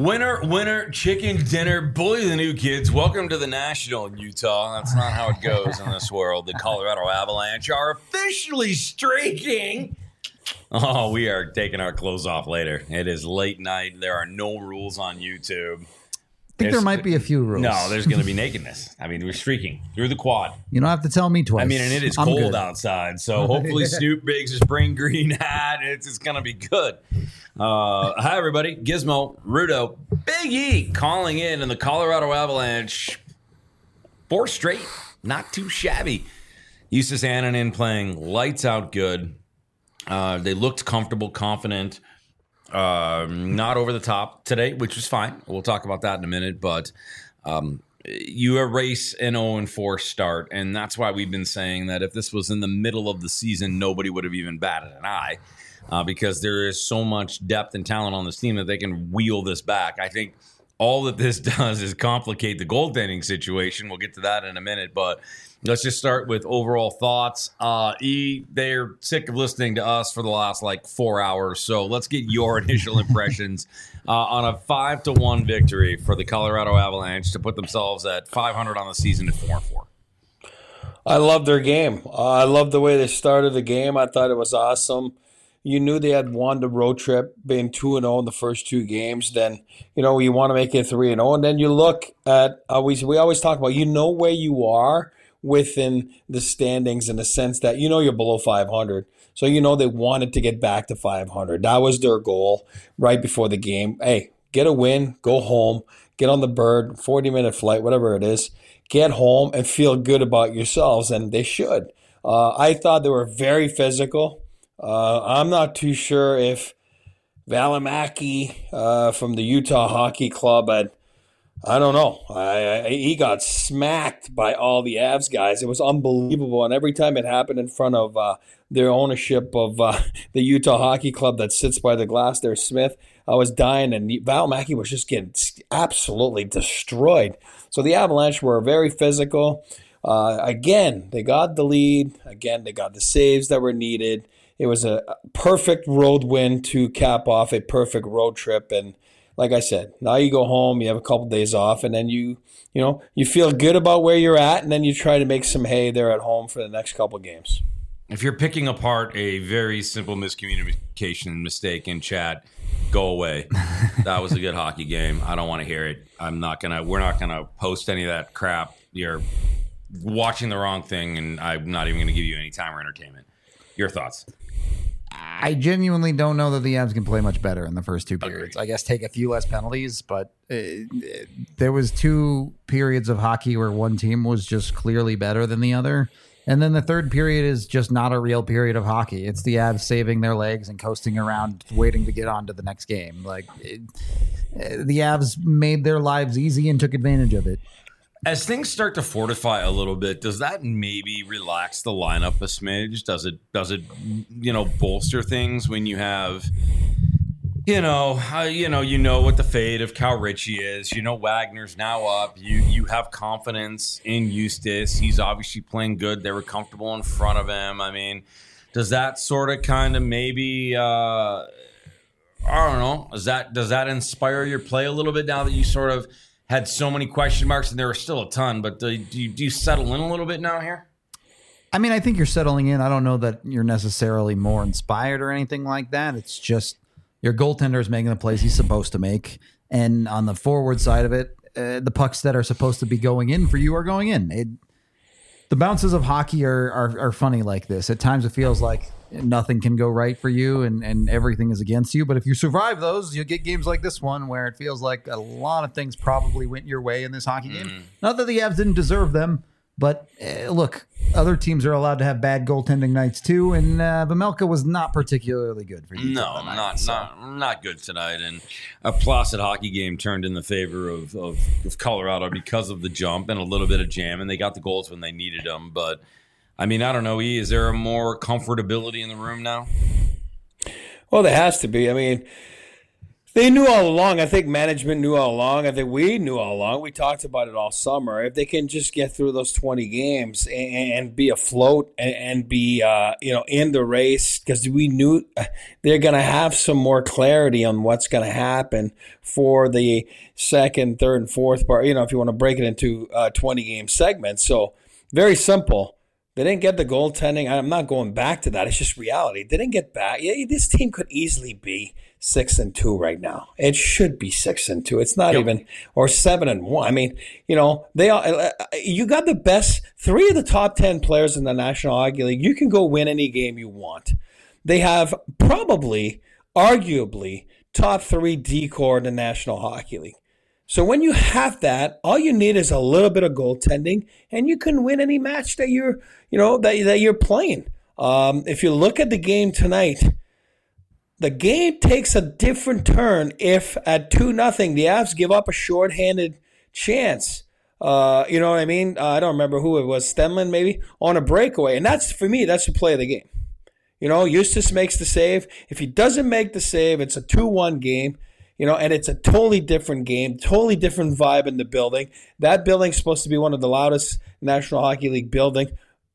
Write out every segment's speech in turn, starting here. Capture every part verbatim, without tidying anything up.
Winner, winner, chicken dinner, bully the new kids. Welcome to the National in Utah. That's not how it goes in this world. The Colorado Avalanche are officially streaking. Oh, we are taking our clothes off later. It is late night. There are no rules on YouTube. I think There's, there might be a few rules. No, there's going to be nakedness. I mean, we're streaking through the quad. You don't have to tell me twice. I mean, and it is I'm cold good. outside, so hopefully Snoop Biggs' spring green hat. It's, it's going to be good. Uh, hi, everybody. Gizmo, Rudo, Big E calling in, and the Colorado Avalanche, four straight, not too shabby. Justus Annunen playing lights out good. Uh, they looked comfortable, confident. Uh, not over the top today, which was fine. We'll talk about that in a minute. But um, you erase an oh and four start, and that's why we've been saying that if this was in the middle of the season, nobody would have even batted an eye uh, because there is so much depth and talent on this team that they can wheel this back. I think all that this does is complicate the goaltending situation. We'll get to that in a minute, but let's just start with overall thoughts. Uh, E, they're sick of listening to us for the last like four hours, so let's get your initial impressions uh, on a five to one victory for the Colorado Avalanche to put themselves at five hundred on the season at four and four. I love their game. Uh, I love the way they started the game. I thought it was awesome. You knew they had won the road trip, being two and zero in the first two games. Then you know you want to make it three and zero, and then you look at always. We always talk about you know where you are within the standings in the sense that you know you're below five hundred. So you know they wanted to get back to five hundred. That was their goal right before the game. Hey, get a win, go home, get on the bird, forty-minute flight, whatever it is. Get home and feel good about yourselves, and they should. Uh, I thought they were very physical. Uh, I'm not too sure if Valimaki uh, from the Utah Hockey Club had I don't know. I, I, he got smacked by all the Avs guys. It was unbelievable. And every time it happened in front of uh, their ownership of uh, the Utah Hockey Club that sits by the glass there, Smith, I was dying. And Valimaki was just getting absolutely destroyed. So the Avalanche were very physical. Uh, again, they got the lead. Again, they got the saves that were needed. It was a perfect road win to cap off a perfect road trip. And like I said, now you go home, you have a couple days off, and then you, you know, you feel good about where you're at, and then you try to make some hay there at home for the next couple of games. If you're picking apart a very simple miscommunication mistake in chat, go away. That was a good hockey game. I don't want to hear it. I'm not gonna. We're not gonna post any of that crap. You're watching the wrong thing, and I'm not even gonna give you any time or entertainment. Your thoughts? I genuinely don't know that the Avs can play much better in the first two periods. Agreed. I guess take a few less penalties, but uh, there was two periods of hockey where one team was just clearly better than the other. And then the third period is just not a real period of hockey. It's the Avs saving their legs and coasting around, waiting to get on to the next game. Like it, the Avs made their lives easy and took advantage of it. As things start to fortify a little bit, does that maybe relax the lineup a smidge? Does it, does it, you know, bolster things when you have, you know, uh, you know, you know what the fate of Cal Ritchie is. You know, Wagner's now up. You you have confidence in Justus. He's obviously playing good. They were comfortable in front of him. I mean, does that sort of kind of maybe, uh, I don't know, does that does that inspire your play a little bit now that you sort of had so many question marks, and there were still a ton, but do you, do you settle in a little bit now here? I mean, I think you're settling in. I don't know that you're necessarily more inspired or anything like that. It's just your goaltender is making the plays he's supposed to make. And on the forward side of it, uh, the pucks that are supposed to be going in for you are going in. It, the bounces of hockey are, are are funny like this. At times it feels like nothing can go right for you and, and everything is against you. But if you survive those, you'll get games like this one where it feels like a lot of things probably went your way in this hockey game. Mm-hmm. Not that the Avs didn't deserve them, but uh, look, other teams are allowed to have bad goaltending nights too, and uh, Vejmelka was not particularly good for you. No, tonight, not so. not not good tonight, and a placid hockey game turned in the favor of, of, of Colorado because of the jump and a little bit of jam, and they got the goals when they needed them, but I mean, I don't know, E, is there a more comfortability in the room now? Well, there has to be. I mean, They knew all along. I think management knew all along. I think we knew all along. We talked about it all summer. If they can just get through those twenty games and, and be afloat and, and be, uh, you know, in the race, because we knew they're going to have some more clarity on what's going to happen for the second, third, and fourth part. You know, if you want to break it into uh, twenty game segments. So very simple. They didn't get the goaltending. I'm not going back to that. It's just reality. They didn't get back. Yeah, this team could easily be six and two right now. It should be six and two. It's not yep. even or seven and one. I mean, you know, they are. You got the best three of the top ten players in the National Hockey League. You can go win any game you want. They have probably, arguably, top three D-core in the National Hockey League. So when you have that, all you need is a little bit of goaltending, and you can win any match that you're, you know, that that you're playing. Um, if you look at the game tonight, the game takes a different turn if at two nothing the Avs give up a shorthanded chance. Uh, you know what I mean? Uh, I don't remember who it was, Stenlund maybe, on a breakaway, and that's for me. That's the play of the game. You know, Eustace makes the save. If he doesn't make the save, it's a two one game. You know, and it's a totally different game, totally different vibe in the building. That building's supposed to be one of the loudest National Hockey League buildings.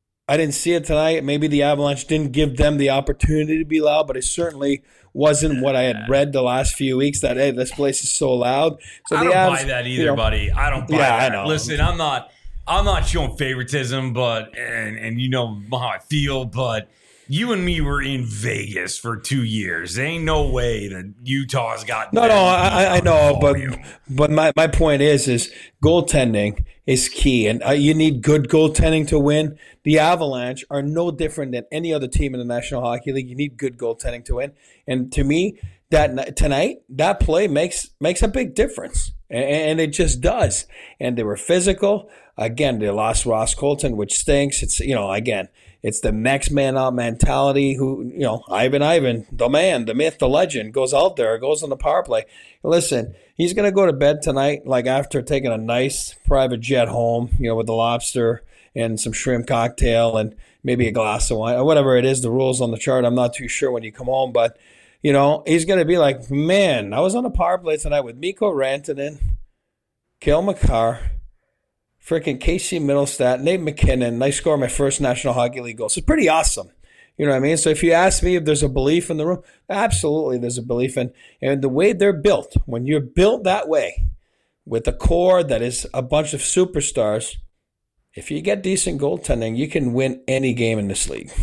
I didn't see it tonight. Maybe the Avalanche didn't give them the opportunity to be loud, but it certainly wasn't what I had read the last few weeks, that, hey, this place is so loud. So I the don't Avs, buy that either, you know, buddy. I don't buy yeah, that. I know. Listen, I'm not I'm not showing favoritism, but and and you know how I feel, but you and me were in Vegas for two years. There ain't no way that Utah's got no, no. I, I know, but but my, my point is is goaltending is key, and uh, you need good goaltending to win. The Avalanche are no different than any other team in the National Hockey League. You need good goaltending to win, and to me, that tonight that play makes makes a big difference, and, and it just does. And they were physical. Again, they lost Ross Colton, which stinks. It's you know again. It's the next man up mentality. Who you know, Ivan Ivan, the man, the myth, the legend, goes out there, goes on the power play. Listen, he's gonna go to bed tonight, like after taking a nice private jet home, you know, with the lobster and some shrimp cocktail and maybe a glass of wine or whatever it is. The rules on the chart, I'm not too sure when you come home, but you know, he's gonna be like, man, I was on a power play tonight with Mikko Rantanen, Cale Makar, freaking Casey Middlestat, Nate McKinnon. I scored my first National Hockey League goal. So it's pretty awesome. You know what I mean? So if you ask me if there's a belief in the room, absolutely there's a belief in. And the way they're built, when you're built that way, with a core that is a bunch of superstars, if you get decent goaltending, you can win any game in this league.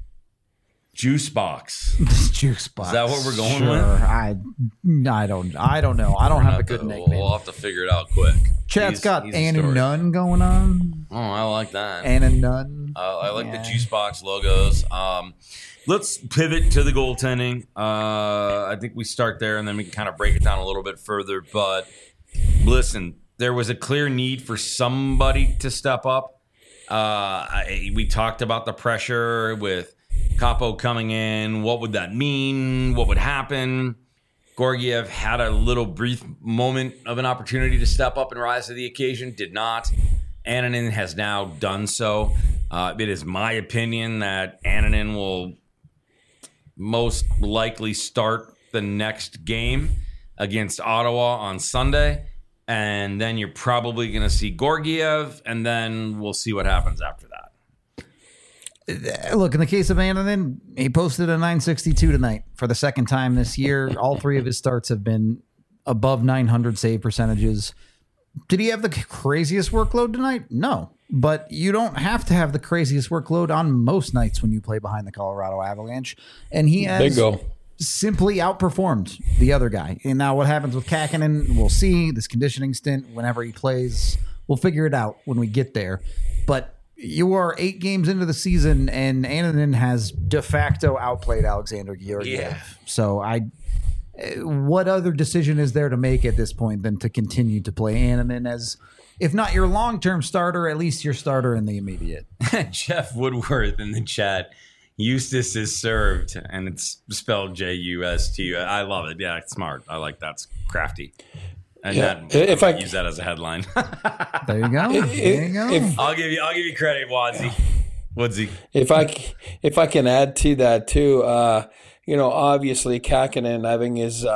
Juice box. Juice box. Is that what we're going sure. with? I, I don't, I don't know. I don't We're have a not good gonna- nickname. We'll have to figure it out quick. Chad's he's- got he's a Ann and story. Nunn going on. Oh, I like that. Ann and Nunn. Uh, I like Yeah. the juice box logos. Um, let's pivot to the goaltending. Uh, I think we start there, and then we can kind of break it down a little bit further. But listen, there was a clear need for somebody to step up. Uh, I, we talked about the pressure with Capo coming in. What would that mean? What would happen? Georgiev had a little brief moment of an opportunity to step up and rise to the occasion. Did not. Annunen has now done so. Uh, it is my opinion that Annunen will most likely start the next game against Ottawa on Sunday. And then you're probably going to see Georgiev, and then we'll see what happens after that. Look, in the case of Annunen, he posted a nine sixty-two tonight for the second time this year. All three of his starts have been above nine hundred save percentages. Did he have the craziest workload tonight? No. But you don't have to have the craziest workload on most nights when you play behind the Colorado Avalanche. And he has Bingo. simply outperformed the other guy. And now what happens with Kakinen, we'll see. This conditioning stint, whenever he plays, we'll figure it out when we get there. But you are eight games into the season, and Annunen has de facto outplayed Alexander Georgiev. Yeah. So I, what other decision is there to make at this point than to continue to play Annunen as, if not your long-term starter, at least your starter in the immediate? Jeff Woodworth in the chat. Eustace is served, and it's spelled J U S T. I love it. Yeah, it's smart. I like that. It's crafty. And Yeah. that, If I I- might use that as a headline. There you go. There you go. If- I'll give you. I'll give you credit, Wadsy. Woodsy. If I, c- if I can add to that too, uh, you know, obviously Kakinen having his uh,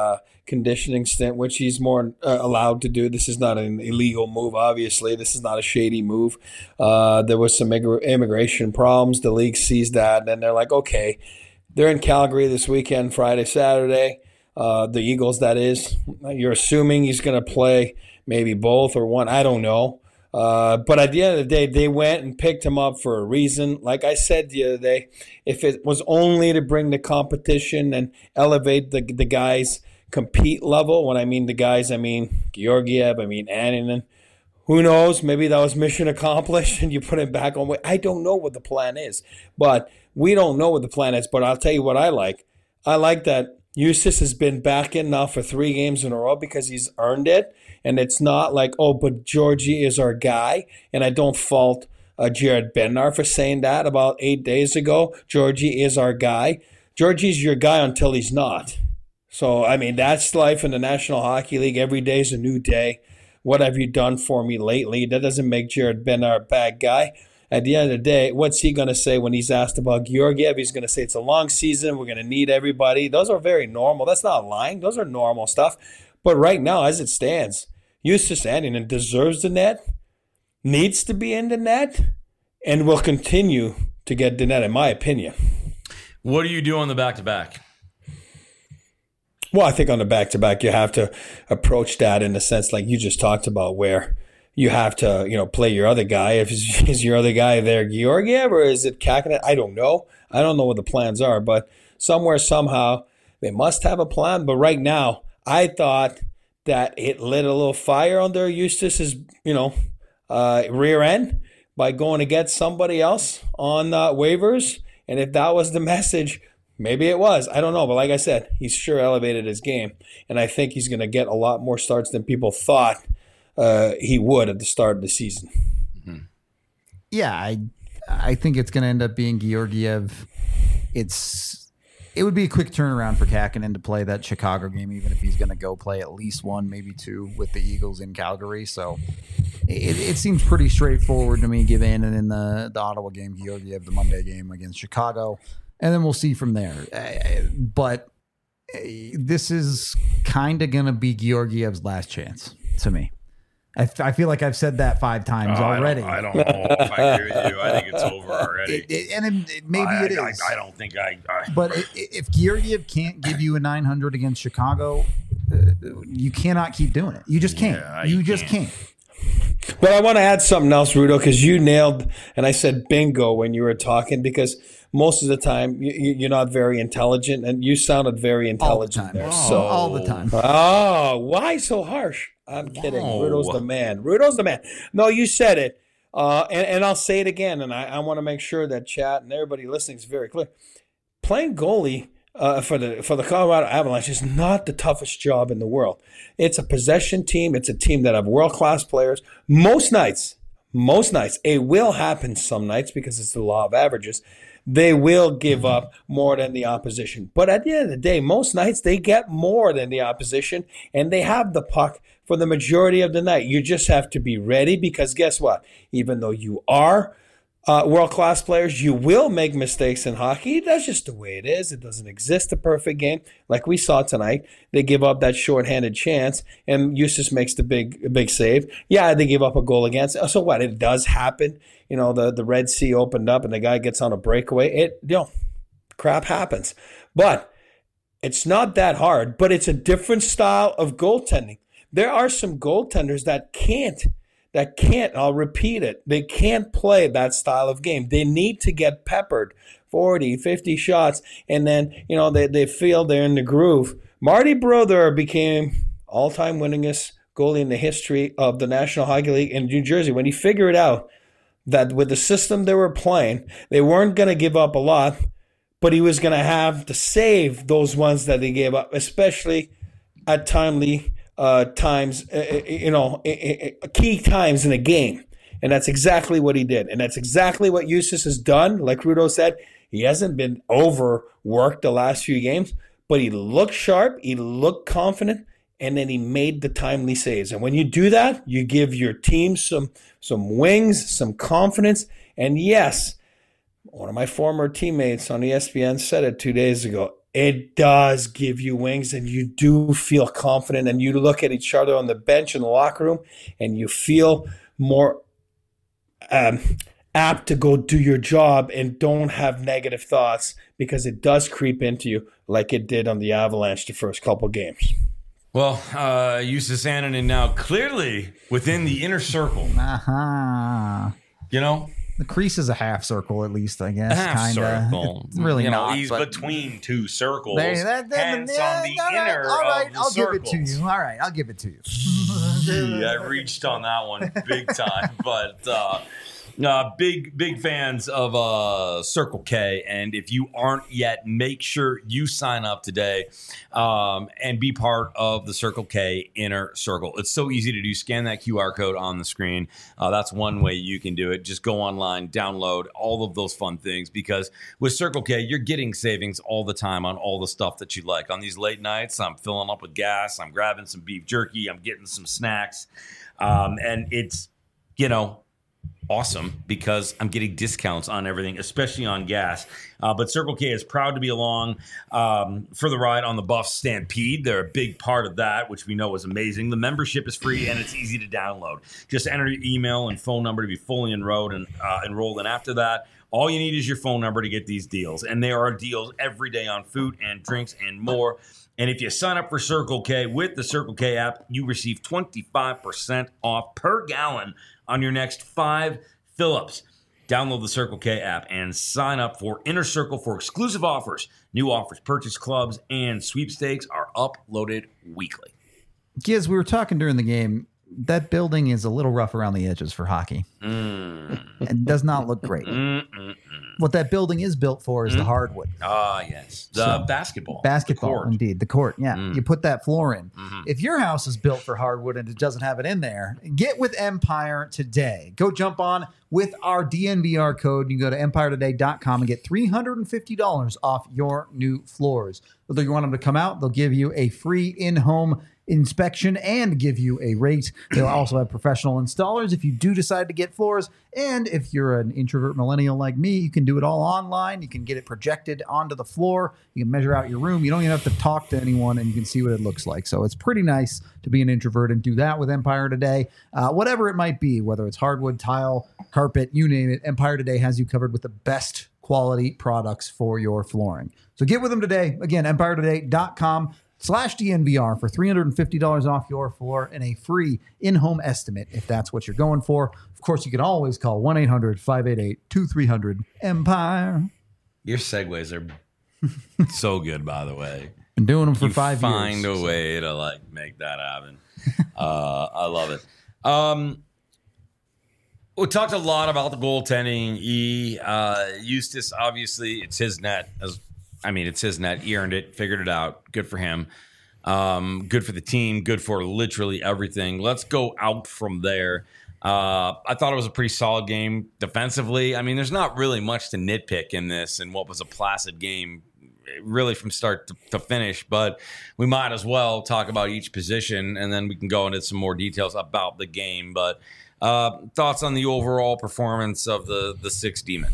conditioning stint, which he's more uh, allowed to do. This is not an illegal move, obviously. This is not a shady move. Uh, there was some immig- immigration problems. The league sees that, and they're like, okay, they're in Calgary this weekend, Friday, Saturday. Uh, the Eagles, that is. You're assuming he's going to play maybe both or one. I don't know. Uh, but at the end of the day, they went and picked him up for a reason. Like I said the other day, if it was only to bring the competition and elevate the the guys' compete level, when I mean the guys, I mean Georgiev, I mean Annunen. Who knows? Maybe that was mission accomplished and you put him back on. I don't know what the plan is. But we don't know what the plan is. But I'll tell you what I like. I like that Justus has been back in now for three games in a row because he's earned it. And it's not like, oh, but Georgie is our guy. And I don't fault uh, Jared Bednar for saying that about eight days ago. Georgie is our guy. Georgie's your guy until he's not. So, I mean, that's life in the National Hockey League. Every day is a new day. What have you done for me lately? That doesn't make Jared Bednar a bad guy. At the end of the day, what's he going to say when he's asked about Georgiev? He's going to say it's a long season. We're going to need everybody. Those are very normal. That's not lying. Those are normal stuff. But right now, as it stands, Justus Annunen deserves the net, needs to be in the net, and will continue to get the net, in my opinion. What do you do on the back-to-back? Well, I think on the back-to-back, you have to approach that in the sense like you just talked about, where you have to, you know, play your other guy. If is, is your other guy there Georgiev or is it Kakinen? I don't know. I don't know what the plans are, but somewhere, somehow, they must have a plan. But right now, I thought that it lit a little fire under Justus's, you know, uh, rear end by going to get somebody else on uh, waivers. And if that was the message, maybe it was. I don't know. But like I said, he's sure elevated his game. And I think he's going to get a lot more starts than people thought uh, he would at the start of the season. Mm-hmm. Yeah, I I think it's going to end up being Georgiev. It's It would be a quick turnaround for Kakinen to play that Chicago game, even if he's going to go play at least one, maybe two with the Eagles in Calgary. So it, it seems pretty straightforward to me. Give in and in the, the Ottawa game, Georgiev, the Monday game against Chicago. And then we'll see from there. But this is kind of going to be Georgiev's last chance to me. I, I feel like I've said that five times oh, already. I don't, I don't know if I agree with you. I think it's over already. It, it, and it, it, maybe I, it I, is. I, I don't think I. I but it, if Georgiev can't give you a nine hundred against Chicago, uh, you cannot keep doing it. You just can't. Yeah, you, you just can't. can't. But I want to add something else, Rudo, because you nailed, and I said bingo when you were talking, because most of the time you, you're not very intelligent, and you sounded very intelligent all the time. there. Oh, so, all the time. Oh, why so harsh? I'm kidding. Whoa. Rudo's the man. Rudo's the man. No, you said it, uh, and, and I'll say it again, and I, I want to make sure that chat and everybody listening is very clear. Playing goalie uh, for the for the Colorado Avalanche is not the toughest job in the world. It's a possession team. It's a team that have world-class players. Most nights, most nights, it will happen some nights because it's the law of averages. They will give up more than the opposition. But at the end of the day, most nights they get more than the opposition, and they have the puck for the majority of the night. You just have to be ready because guess what? Even though you are uh, world-class players, you will make mistakes in hockey. That's just the way it is. It doesn't exist a perfect game. Like we saw tonight, they give up that shorthanded chance, and Justus makes the big big save. Yeah, they give up a goal against. So what? It does happen. You know, the, the Red Sea opened up and the guy gets on a breakaway. It, you know, crap happens. But it's not that hard, but it's a different style of goaltending. There are some goaltenders that can't, that can't, I'll repeat it, they can't play that style of game. They need to get peppered forty, fifty shots, and then, you know, they, they feel they're in the groove. Marty Brodeur became all-time winningest goalie in the history of the National Hockey League in New Jersey when he figured out that with the system they were playing, they weren't going to give up a lot, but he was going to have to save those ones that they gave up, especially at timely uh, times, uh, you know, key times in a game. And that's exactly what he did. And that's exactly what Justus has done. Like Rudo said, he hasn't been overworked the last few games, but he looked sharp, he looked confident, and then he made the timely saves. And when you do that, you give your team some some wings, some confidence. And yes, one of my former teammates on E S P N said it two days ago. it does give you wings, and you do feel confident, and you look at each other on the bench in the locker room and you feel more um, apt to go do your job and don't have negative thoughts, because it does creep into you like it did on the Avalanche the first couple games. Well, uh, Justus Annunen now clearly within the inner circle. Uh-huh. You know? The crease is a half circle, at least, I guess. A half kinda. circle. It's really you know, not. He's but between two circles. There, that, that, hence yeah, on the all right, inner all right, of the I'll circles. give it to you. All right, I'll give it to you. Gee, I reached on that one big time. But uh, uh, big, big fans of uh, Circle K. And if you aren't yet, make sure you sign up today um, and be part of the Circle K Inner Circle. It's so easy to do. Scan that Q R code on the screen. Uh, that's one way you can do it. Just go online, download all of those fun things, because with Circle K, you're getting savings all the time on all the stuff that you like. On these late nights, I'm filling up with gas. I'm grabbing some beef jerky. I'm getting some snacks. Um, and it's, you know, awesome because I'm getting discounts on everything, especially on gas. Uh, but Circle K is proud to be along um, for the ride on the Buffs Stampede. They're a big part of that, which we know is amazing. The membership is free and it's easy to download. Just enter your email and phone number to be fully enrolled, and uh, enrolled. And after that, all you need is your phone number to get these deals. And there are deals every day on food and drinks and more. And if you sign up for Circle K with the Circle K app, you receive twenty-five percent off per gallon on your next five fill-ups. Download the Circle K app and sign up for Inner Circle for exclusive offers. New offers, purchase clubs, and sweepstakes are uploaded weekly. Giz, we were talking during the game. That building is a little rough around the edges for hockey. Mm. It does not look great. Mm-mm-mm. What that building is built for is Mm. the hardwood. Ah, yes. The So, basketball. Basketball, The court. indeed. The court, yeah. Mm. You put that floor in. Mhm. If your house is built for hardwood and it doesn't have it in there, get with Empire today. Go jump on with our D N V R code. You can go to empire today dot com and get three hundred fifty dollars off your new floors. Whether you want them to come out, they'll give you a free in-home inspection and give you a rate. They'll also have professional installers if you do decide to get floors. And if you're an introvert millennial like me, you can do it all online. You can get it projected onto the floor. You can measure out your room. You don't even have to talk to anyone, and you can see what it looks like. So it's pretty nice to be an introvert and do that with Empire Today. Uh, whatever it might be, whether it's hardwood, tile, carpet, you name it, Empire Today has you covered with the best quality products for your flooring. So get with them today. Again, empire today dot com slash D N V R for three hundred fifty dollars off your floor and a free in-home estimate if that's what you're going for. Of course, you can always call one eight hundred five eight eight two three zero zero Empire. Your segues are so good, by the way. Been doing them for you five find years. a way to like make that happen. uh, I love it. Um, we talked a lot about the goaltending. E uh, Justus, obviously, it's his net. As I mean, it's his net. He earned it, figured it out. Good for him. Um, good for the team. Good for literally everything. Let's go out from there. Uh, I thought it was a pretty solid game defensively. I mean, there's not really much to nitpick in this and what was a placid game, really from start to, to finish. But we might as well talk about each position, and then we can go into some more details about the game. But uh, thoughts on the overall performance of the the six D-men?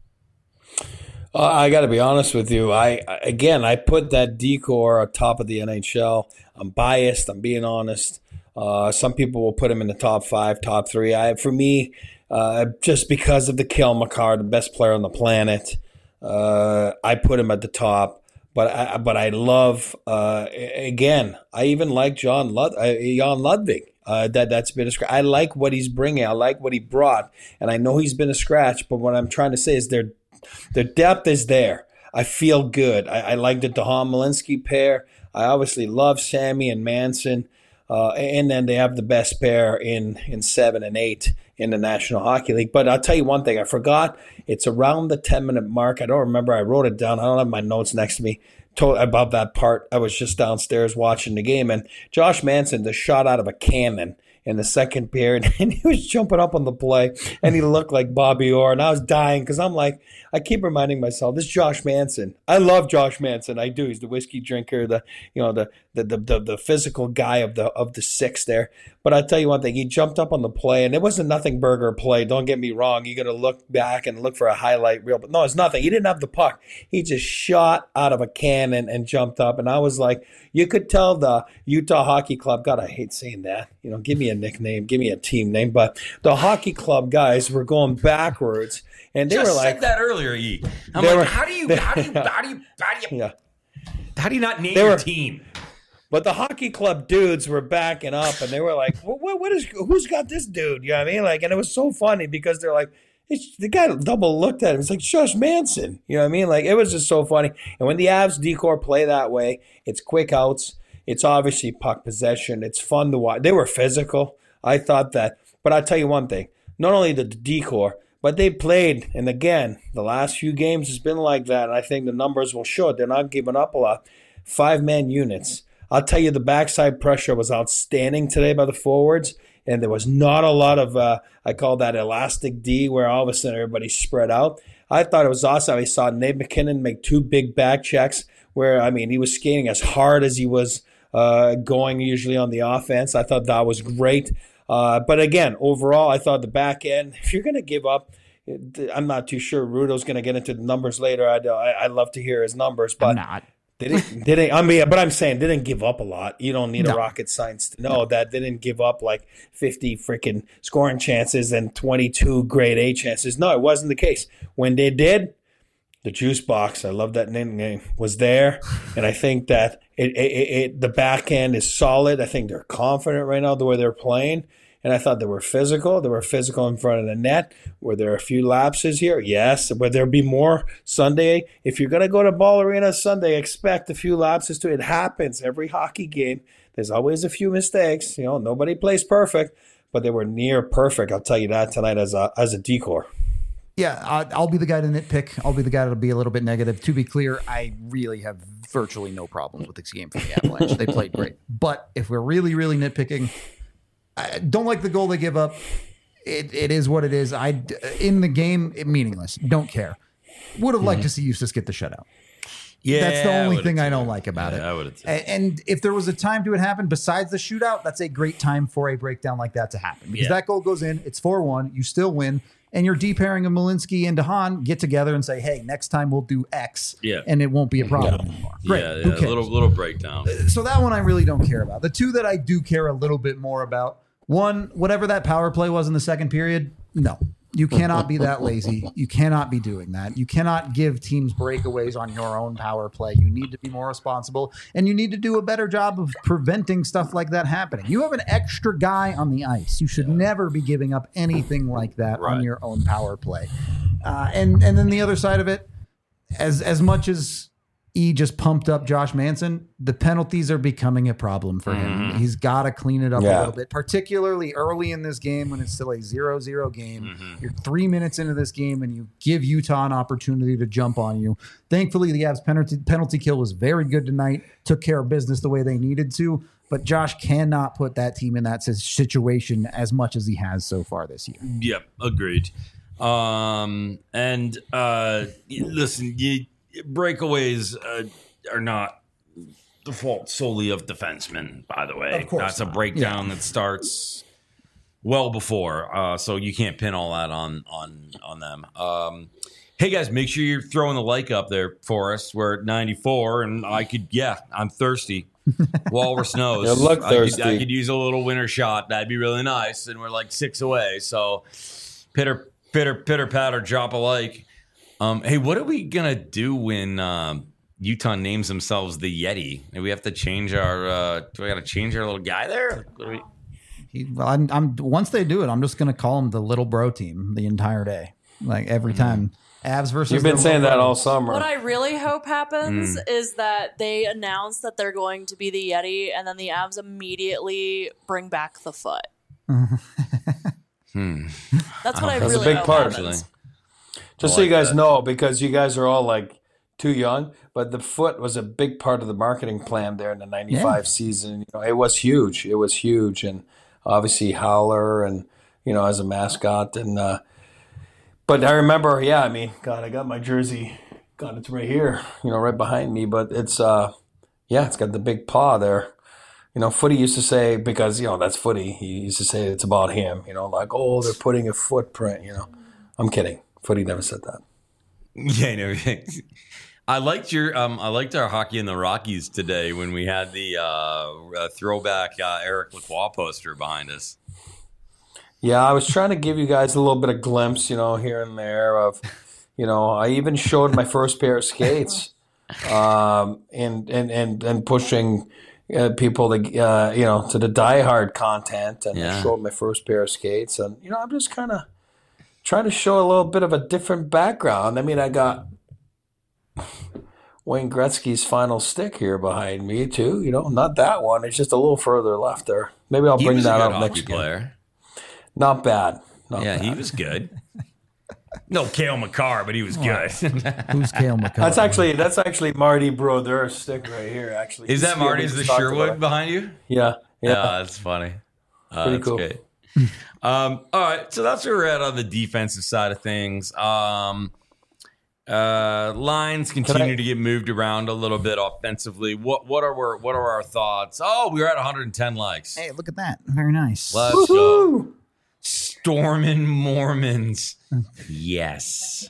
Uh, I got to be honest with you. I again, I put that decor on top of the N H L. I'm biased. I'm being honest. Uh, some people will put him in the top five, top three. I, for me, uh, just because of the Cale Makar, the best player on the planet, uh, I put him at the top. But I, but I love uh, again. I even like John Lud, uh, Jan Ludwig. Uh, that that's been a scratch. I like what he's bringing. I like what he brought, and I know he's been a scratch. But what I'm trying to say is their their depth is there. I feel good. I, I like the Dahan Malinsky pair. I obviously love Sammy and Manson, uh, and then they have the best pair in in seven and eight in the National Hockey League. But I'll tell you one thing. I forgot. It's around the ten minute mark. I don't remember. I wrote it down. I don't have my notes next to me. About that part, I was just downstairs watching the game, and Josh Manson just shot out of a cannon in the second period, and he was jumping up on the play, and he looked like Bobby Orr, and I was dying because I'm like, I keep reminding myself, this is Josh Manson. I love Josh Manson. I do. He's the whiskey drinker, the you know the the the, the, the physical guy of the of the six there. But I tell you one thing, he jumped up on the play, and it was a nothing burger play. Don't get me wrong. You got to look back and look for a highlight reel, but no, it's nothing. He didn't have the puck. He just shot out of a cannon and jumped up, and I was like, you could tell the Utah Hockey Club. God, I hate saying that. You know, give me a nickname, give me a team name, but the hockey club guys were going backwards, and they Just were like, said that earlier, E. I'm They like, were- how do you, they- how do you, how do you, how do you, yeah. how do you not name They your were- team? But the hockey club dudes were backing up, and they were like, "What? What, what is? Who's got this dude?" You know what I mean? Like, and it was so funny because they're like, it's, the guy double looked at him. It's like Josh Manson. You know what I mean? Like, it was just so funny. And when the Avs decor play that way, it's quick outs. It's obviously puck possession. It's fun to watch. They were physical. I thought that. But I'll tell you one thing. Not only the decor, but they played. And again, the last few games has been like that. And I think the numbers will show it. They're not giving up a lot. Five-man units. I'll tell you, the backside pressure was outstanding today by the forwards. And there was not a lot of, uh, I call that elastic D, where all of a sudden everybody's spread out. I thought it was awesome. I saw Nate McKinnon make two big back checks where, I mean, he was skating as hard as he was uh, going usually on the offense. I thought that was great. Uh, but again, overall, I thought the back end, if you're going to give up, I'm not too sure. Rudo's going to get into the numbers later. I'd, I'd love to hear his numbers, but I'm not. they didn't, they didn't, I mean, but I'm saying they didn't give up a lot. You don't need No. a rocket science to know that they didn't give up like fifty freaking scoring chances and twenty-two grade A chances. No, it wasn't the case. When they did, the juice box, I love that name, was there. And I think that it, it, it, it the back end is solid. I think they're confident right now the way they're playing. And I thought they were physical. They were physical in front of the net. Were there a few lapses here? Yes. Would there be more Sunday? If you're going to go to Ball Arena Sunday, expect a few lapses too. It happens every hockey game. There's always a few mistakes. You know, nobody plays perfect, but they were near perfect. I'll tell you that tonight as a as a decor. Yeah, I- I'll be the guy to nitpick. I'll be the guy that'll be a little bit negative. To be clear, I really have virtually no problems with this game for the Avalanche. They played great. But if we're really, really nitpicking, I don't like the goal they give up. It, it is what it is. I in the game, it, meaningless. Don't care. Would have liked to see Eustace get the shutout. Yeah, That's the only would've thing I too. don't like about Yeah, it. I would've too. A- And if there was a time to it happen besides the shootout, that's a great time for a breakdown like that to happen. Because Yeah. that goal goes in, it's four one, you still win, and your D pairing of Malinsky and DeHaan get together and say, hey, next time we'll do X, Yeah. and it won't be a problem anymore. Great. Yeah, Who yeah, cares? a little little breakdown. So that one I really don't care about. The two that I do care a little bit more about, one, whatever that power play was in the second period, no. You cannot be that lazy. You cannot be doing that. You cannot give teams breakaways on your own power play. You need to be more responsible, and you need to do a better job of preventing stuff like that happening. You have an extra guy on the ice. You should never be giving up anything like that Right. on your own power play. Uh, and and then the other side of it, as as much as E just pumped up Josh Manson, the penalties are becoming a problem for him. He's got to clean it up a Yeah. little bit, particularly early in this game when it's still a zero zero game. You're three minutes into this game and you give Utah an opportunity to jump on you. Thankfully, the Avs penalty, penalty kill was very good tonight, took care of business the way they needed to, but Josh cannot put that team in that si- situation as much as he has so far this year. Yep, agreed. Um, and uh, y- listen, you, breakaways uh, are not the fault solely of defensemen. By the way, Of course that's a not. breakdown that starts well before, uh, so you can't pin all that on on on them. Um, hey guys, make sure you're throwing the like up there for us. We're at ninety-four, and I could, yeah, I'm thirsty. Walrus knows. You look I could, I thirsty. could use a little winter shot. That'd be really nice. And we're like six away. So pitter, pitter, pitter, patter, drop a like. Um, hey, what are we going to do when um, Utah names themselves the Yeti? Do we have to change our, uh, do we got to change our little guy there? What do we, He, well, I'm, I'm once they do it, I'm just going to call him the little bro team the entire day, like every time. Avs versus. You've been the saying little that bro. all summer. What I really hope happens Mm. is that they announce that they're going to be the Yeti, and then the Avs immediately bring back the foot. hmm. That's what I That's a really big hope part. happens. Just I so you like guys that. know, because you guys are all like too young, but the foot was a big part of the marketing plan there in the ninety-five season. You know, it was huge. It was huge. And obviously Howler and, you know, as a mascot. And uh, but I remember, yeah, I mean, God, I got my jersey. God, it's right here, you know, right behind me. But it's, uh, yeah, it's got the big paw there. You know, Footy used to say, because, you know, that's Footy, he used to say it's about him, you know, like, oh, they're putting a footprint, you know. I'm kidding. Footy never said that. Yeah, no. I liked your um, I liked our Hockey in the Rockies today when we had the uh, uh, throwback uh, Eric Lacroix poster behind us. Yeah, I was trying to give you guys a little bit of glimpse, you know, here and there of, you know, I even showed my first pair of skates, um, and and and and pushing uh, people to uh, you know, to the diehard content, and Yeah. I showed my first pair of skates, and you know, I'm just kind of trying to show a little bit of a different background. I mean, I got Wayne Gretzky's final stick here behind me too. You know, not that one. It's just a little further left there. Maybe I'll He bring was that a up good next hockey game. player. Not bad. Not Yeah, bad. he was good. No Cale McCarr, but he was good. Who's Cale McCullough? That's actually that's actually Marty Brodeur's stick right here. Actually, Is You that see him, we Marty's the just talked about Sherwood it. behind you? Yeah, yeah. Yeah, that's funny. Uh, Pretty that's cool. great. Um, all right, so that's where we're at on the defensive side of things. Um, uh, lines continue I- to get moved around a little bit offensively. What what are our, what are our thoughts? Oh, we're at one hundred ten likes. Hey, look at that. Very nice. Let's go. Woo-hoo! Stormin' Mormons. Yes.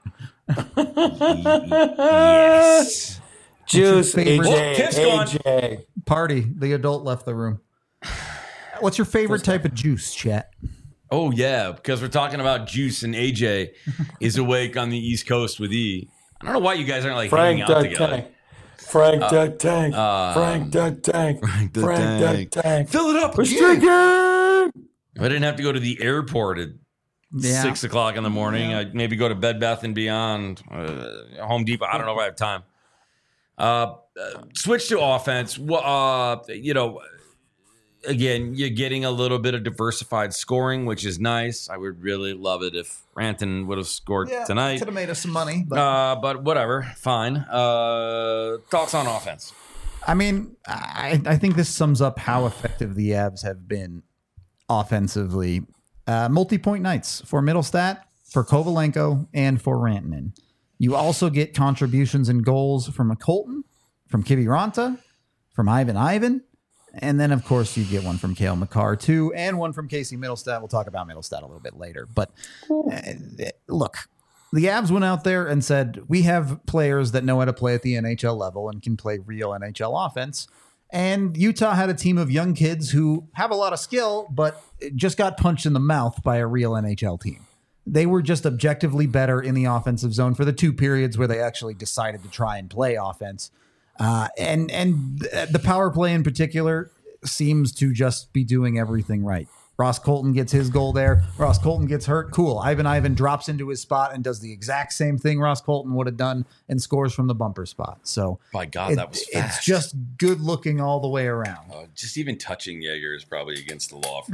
Yes. Juice, A favorite- Oh, J, Tiff's gone. A J. Party. The adult left the room. What's your favorite type of juice, chat? Oh yeah, because we're talking about Juice and A J is awake on the East Coast with E. I don't know why you guys aren't like Frank hanging out the together. Tank. Frank the Tank. uh, Frank the Tank. Frank the Frank Tank. the Tank. Fill it up. We're again. drinking. If I didn't have to go to the airport at Yeah. six o'clock in the morning, I'd maybe go to Bed Bath and Beyond, uh, Home Depot. I don't know if I have time. Uh, uh, switch to offense. Wha- Uh, you know, again, you're getting a little bit of diversified scoring, which is nice. I would really love it if Ranton would have scored tonight. Could have made us some money. But Uh, but whatever, fine. Uh, thoughts on offense? I mean, I, I think this sums up how effective the Avs have been offensively. Uh, multi-point nights for Middlestat, for Kovalenko, and for Rantanen. You also get contributions and goals from a Colton, from Kiviranta, from Ivan Ivan, and then, of course, you get one from Cale McCarr, too, and one from Casey Middlestat. We'll talk about Middlestat a little bit later. But uh, look, the Avs went out there and said, we have players that know how to play at the N H L level and can play real N H L offense. And Utah had a team of young kids who have a lot of skill, but just got punched in the mouth by a real N H L team. They were just objectively better in the offensive zone for the two periods where they actually decided to try and play offense. Uh, and and the power play in particular seems to just be doing everything right. Ross Colton gets his goal there. Ross Colton gets hurt. Cool. Ivan Ivan drops into his spot and does the exact same thing Ross Colton would have done and scores from the bumper spot. So My God, it- that was fast. it's just good looking all the way around. Uh, just even touching Jaeger is probably against the law. For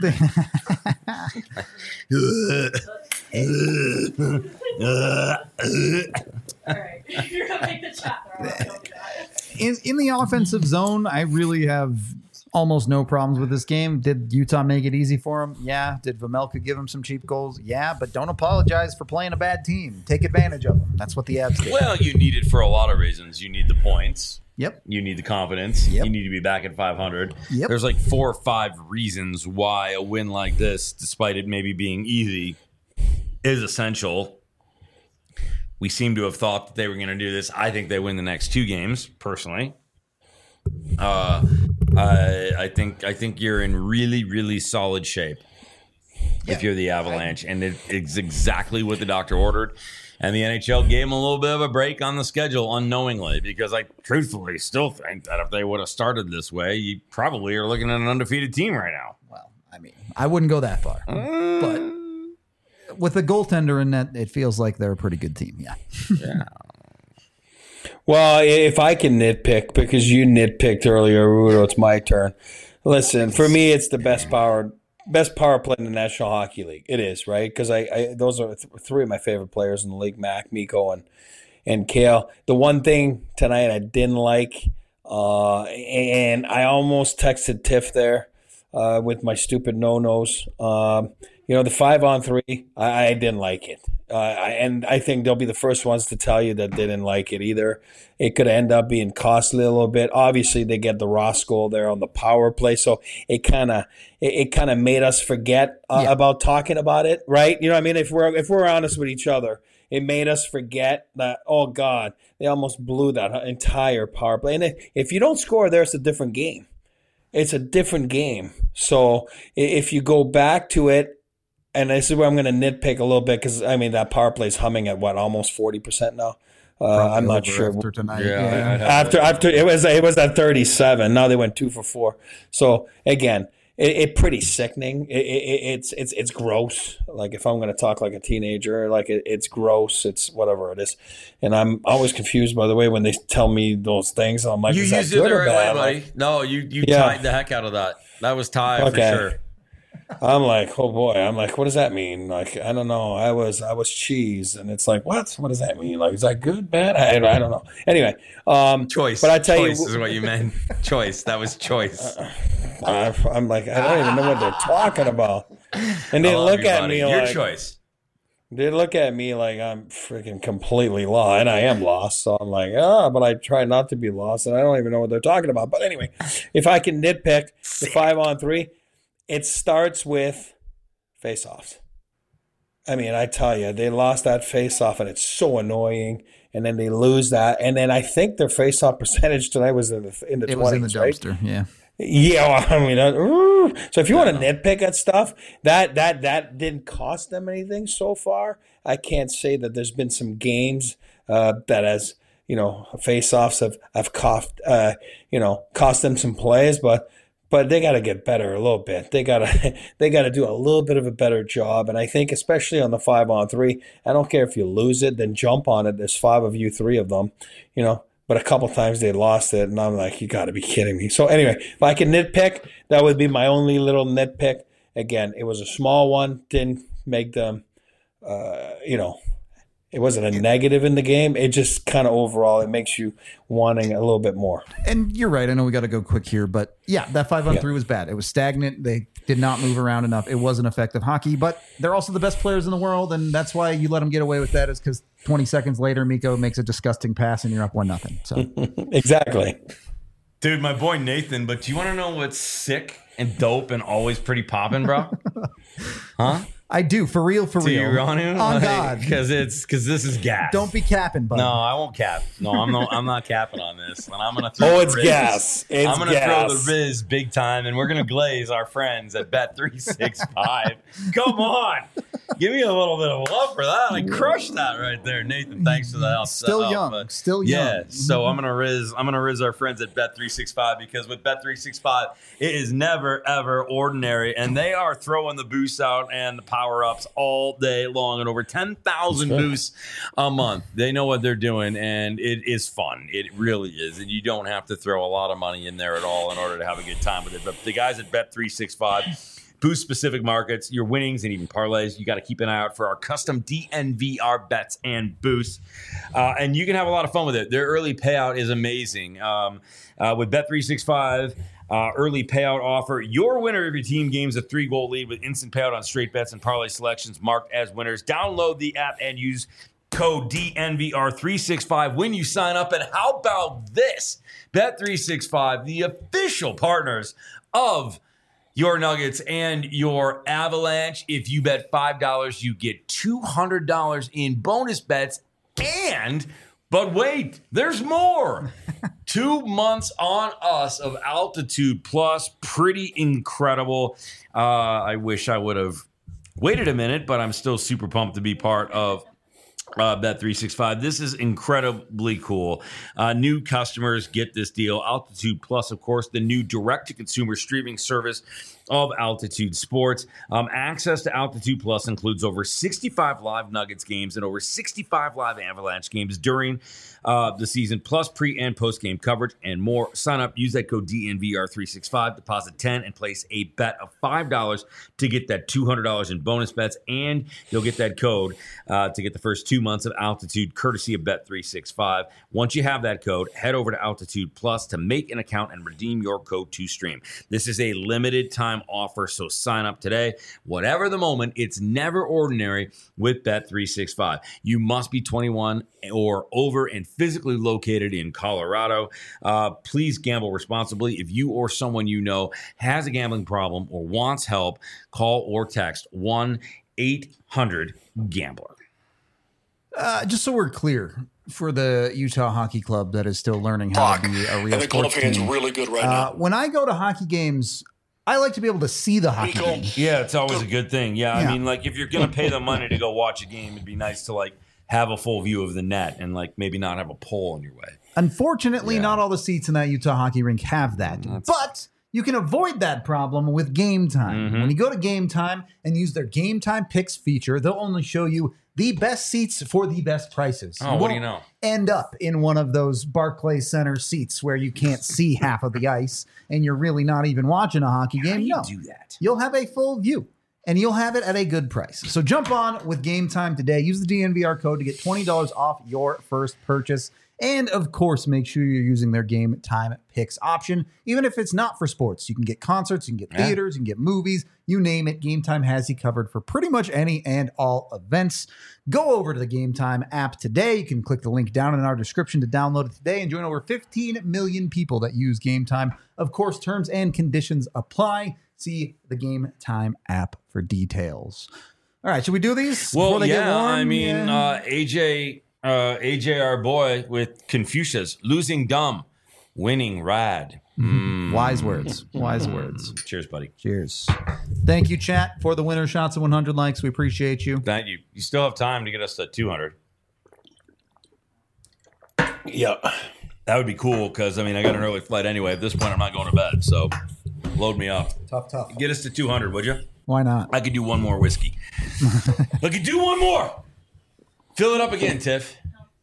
me. All right, you're gonna make the chat. All right, don't do that. in in the offensive zone, I really have almost no problems with this game. Did Utah make it easy for him? Yeah. Did Vemelka give him some cheap goals? Yeah. But don't apologize for playing a bad team. Take advantage of them. That's what the Avs did. Well, you need it for a lot of reasons. You need the points. Yep. You need the confidence. Yep. You need to be back at five hundred. Yep. There's like four or five reasons why a win like this, despite it maybe being easy, is essential. We seem to have thought that they were going to do this. I think they win the next two games, personally. Uh, I, I think I think you're in really, really solid shape if you're the Avalanche, and it, it's exactly what the doctor ordered. And the N H L gave them a little bit of a break on the schedule unknowingly, because I truthfully still think that if they would have started this way, you probably are looking at an undefeated team right now. Well, I mean, I wouldn't go that far. But with a goaltender in net, it feels like they're a pretty good team. Yeah. Yeah. Well, if I can nitpick, because you nitpicked earlier, Rudo, it's my turn. Listen, for me, it's the best power best power play in the National Hockey League. It is, right? Because I, I those are th- three of my favorite players in the league: Mac, Miko, and and Cale. The one thing tonight I didn't like, uh, and I almost texted Tiff there. uh, with my stupid no-nos. Um, you know, the five on three, I, I didn't like it. Uh, I, and I think they'll be the first ones to tell you that they didn't like it either. It could end up being costly a little bit. Obviously, they get the Ross goal there on the power play, so it kind of it, it kind of made us forget uh, Yeah. about talking about it, right? You know what I mean? If we're if we're honest with each other, it made us forget that, oh, God, they almost blew that entire power play. And if you don't score there, it's a different game. It's a different game. So if you go back to it, and this is where I'm going to nitpick a little bit because, I mean, that power play is humming at, what, almost forty percent now? Uh, I'm not Over sure. after tonight. Yeah, Yeah. I- I'd have After that. after it was it was at thirty-seven. Now they went two for four. So again, it, it pretty sickening. It, it, it's it's it's gross. Like if I'm going to talk like a teenager, like it, it's gross. It's whatever it is, and I'm always confused by the way when they tell me those things. I'm like, You is that used it good the or right bad? way, buddy. Like, No, you you Yeah. tied the heck out of that. That was tie Okay. for sure. I'm like, oh boy. I'm like, what does that mean? Like, I don't know. I was I was cheese, and it's like, what? What does that mean? Like, is that good, bad? I, I don't know. Anyway, um, Choice. But I tell choice you, is what you meant. Choice. That was choice. I, I'm like, I don't even know what they're talking about. And they I love look you, at buddy. me Your like choice. they look at me like I'm freaking completely lost, and I am lost. So I'm like, ah, but I try not to be lost, and I don't even know what they're talking about. But anyway, if I can nitpick the five on three, it starts with face-offs. I mean, I tell you, they lost that face-off, and it's so annoying. And then they lose that, and then I think their face-off percentage tonight was in the in the It was in the twenties, right? dumpster. Yeah. Yeah, well, I mean, uh, ooh. So if you want to nitpick at stuff, that that that didn't cost them anything so far. I can't say that there's been some games uh, that has, you know, face-offs have have cost uh, you know cost them some plays, but but they got to get better a little bit. They gotta they got to do a little bit of a better job, and I think especially on the five on three, I don't care if you lose it, then jump on it. There's five of you, three of them, you know. But a couple times they lost it, and I'm like, you got to be kidding me. So anyway, if I can nitpick, that would be my only little nitpick. Again, it was a small one, didn't make them, uh, you know, it wasn't a negative in the game. It just kind of overall, it makes you wanting a little bit more. And you're right. I know we got to go quick here, but yeah, that five on Yeah. three was bad. It was stagnant. They did not move around enough. It wasn't effective hockey, but they're also the best players in the world, and that's why you let them get away with that. Is because twenty seconds later, Miko makes a disgusting pass, and you're up one nothing. So Exactly. Dude, my boy Nathan, but do you want to know what's sick and dope and always pretty poppin', bro? Huh? I do for real, for Do real. you on him? On God. Because it's because this is gas. Don't be capping, bud. No, I won't cap. No, I'm not. I'm not capping on this. And I'm gonna throw. Oh, the it's Riz. gas. It's I'm gonna gas. throw the Riz big time, and we're gonna glaze our friends at Bet three sixty-five. Come on, give me a little bit of love for that. I crushed that right there, Nathan. Thanks for the help. Still help, young. but- Still young. Yeah. So I'm gonna Riz. I'm gonna Riz our friends at Bet three sixty-five because with Bet three sixty-five, it is never ever ordinary, and they are throwing the boosts out and the power ups all day long, and over ten thousand That's right. boosts a month. They know what they're doing, and it is fun. It really is, and you don't have to throw a lot of money in there at all in order to have a good time with it. But the guys at Bet three sixty-five boost specific markets, your winnings, and even parlays. You got to keep an eye out for our custom D N V R bets and boosts, uh, and you can have a lot of fun with it. Their early payout is amazing. Um, uh, with Bet three sixty-five. Uh, early payout offer. Your winner of your team gains a three-goal lead with instant payout on straight bets and parlay selections marked as winners. Download the app and use code D N V R three sixty-five when you sign up. And how about this? Bet three sixty-five, the official partners of your Nuggets and your Avalanche. If you bet five dollars, you get two hundred dollars in bonus bets. And, but wait, there's more. Two months on us of Altitude Plus. Pretty incredible. Uh, I wish I would have waited a minute, but I'm still super pumped to be part of Uh, Bet three sixty-five. This is incredibly cool. Uh, new customers get this deal. Altitude Plus, of course, the new direct-to-consumer streaming service of Altitude Sports. Um, access to Altitude Plus includes over sixty-five live Nuggets games and over sixty-five live Avalanche games during uh, the season, plus pre- and post-game coverage and more. Sign up, use that code D N V R three sixty-five, deposit ten, and place a bet of five dollars to get that two hundred dollars in bonus bets, and you'll get that code uh, to get the first two months of Altitude courtesy of Bet three sixty-five. Once you have that code, head over to Altitude Plus to make an account and redeem your code to stream. This is a limited time time offer, so sign up today. Whatever the moment, it's never ordinary with Bet three sixty-five. You must be twenty-one or over and physically located in Colorado. Uh, please gamble responsibly. If you or someone you know has a gambling problem or wants help, call or text one eight hundred gambler. Uh, just so we're clear, for the Utah Hockey Club that is still learning how Fuck. to be a real And the sports Qualification's team, really good right uh, now. when I go to hockey games, I like to be able to see the hockey Nico. game. Yeah, it's always a good thing. Yeah, Yeah. I mean, like if you're gonna pay the money to go watch a game, it'd be nice to like have a full view of the net and like maybe not have a pole in your way. Unfortunately, Yeah. not all the seats in that Utah hockey rink have that. But you can avoid that problem with Game Time. Mhm. When you go to Game Time and use their Game Time Picks feature, they'll only show you the best seats for the best prices. Oh, what do you won't know? End up in one of those Barclays Center seats where you can't see half of the ice and you're really not even watching a hockey game. How do you no, do that? you'll have a full view. And you'll have it at a good price. So jump on with Game Time today. Use the D N V R code to get twenty dollars off your first purchase. And of course, make sure you're using their Game Time Picks option. Even if it's not for sports, you can get concerts, you can get Yeah. theaters, you can get movies, you name it. Game Time has you covered for pretty much any and all events. Go over to the Game Time app today. You can click the link down in our description to download it today and join over fifteen million people that use Game Time. Of course, terms and conditions apply. See the Game Time app for details. All right, should we do these Well, before they get yeah, warm? I mean, Yeah. uh, A J, uh, A J, our boy with Confucius, losing dumb, winning rad. Mm. Wise words. Wise words. Cheers, buddy. Cheers. Thank you, chat, for the winner shots of one hundred likes. We appreciate you. Thank you. You still have time to get us to two hundred. Yeah. That would be cool because, I mean, I got an early flight anyway. At this point, I'm not going to bed, so load me up. Tough, tough. Get us to two hundred, would you? Why not? I could do one more whiskey. I could do one more. Fill it up again, Tiff.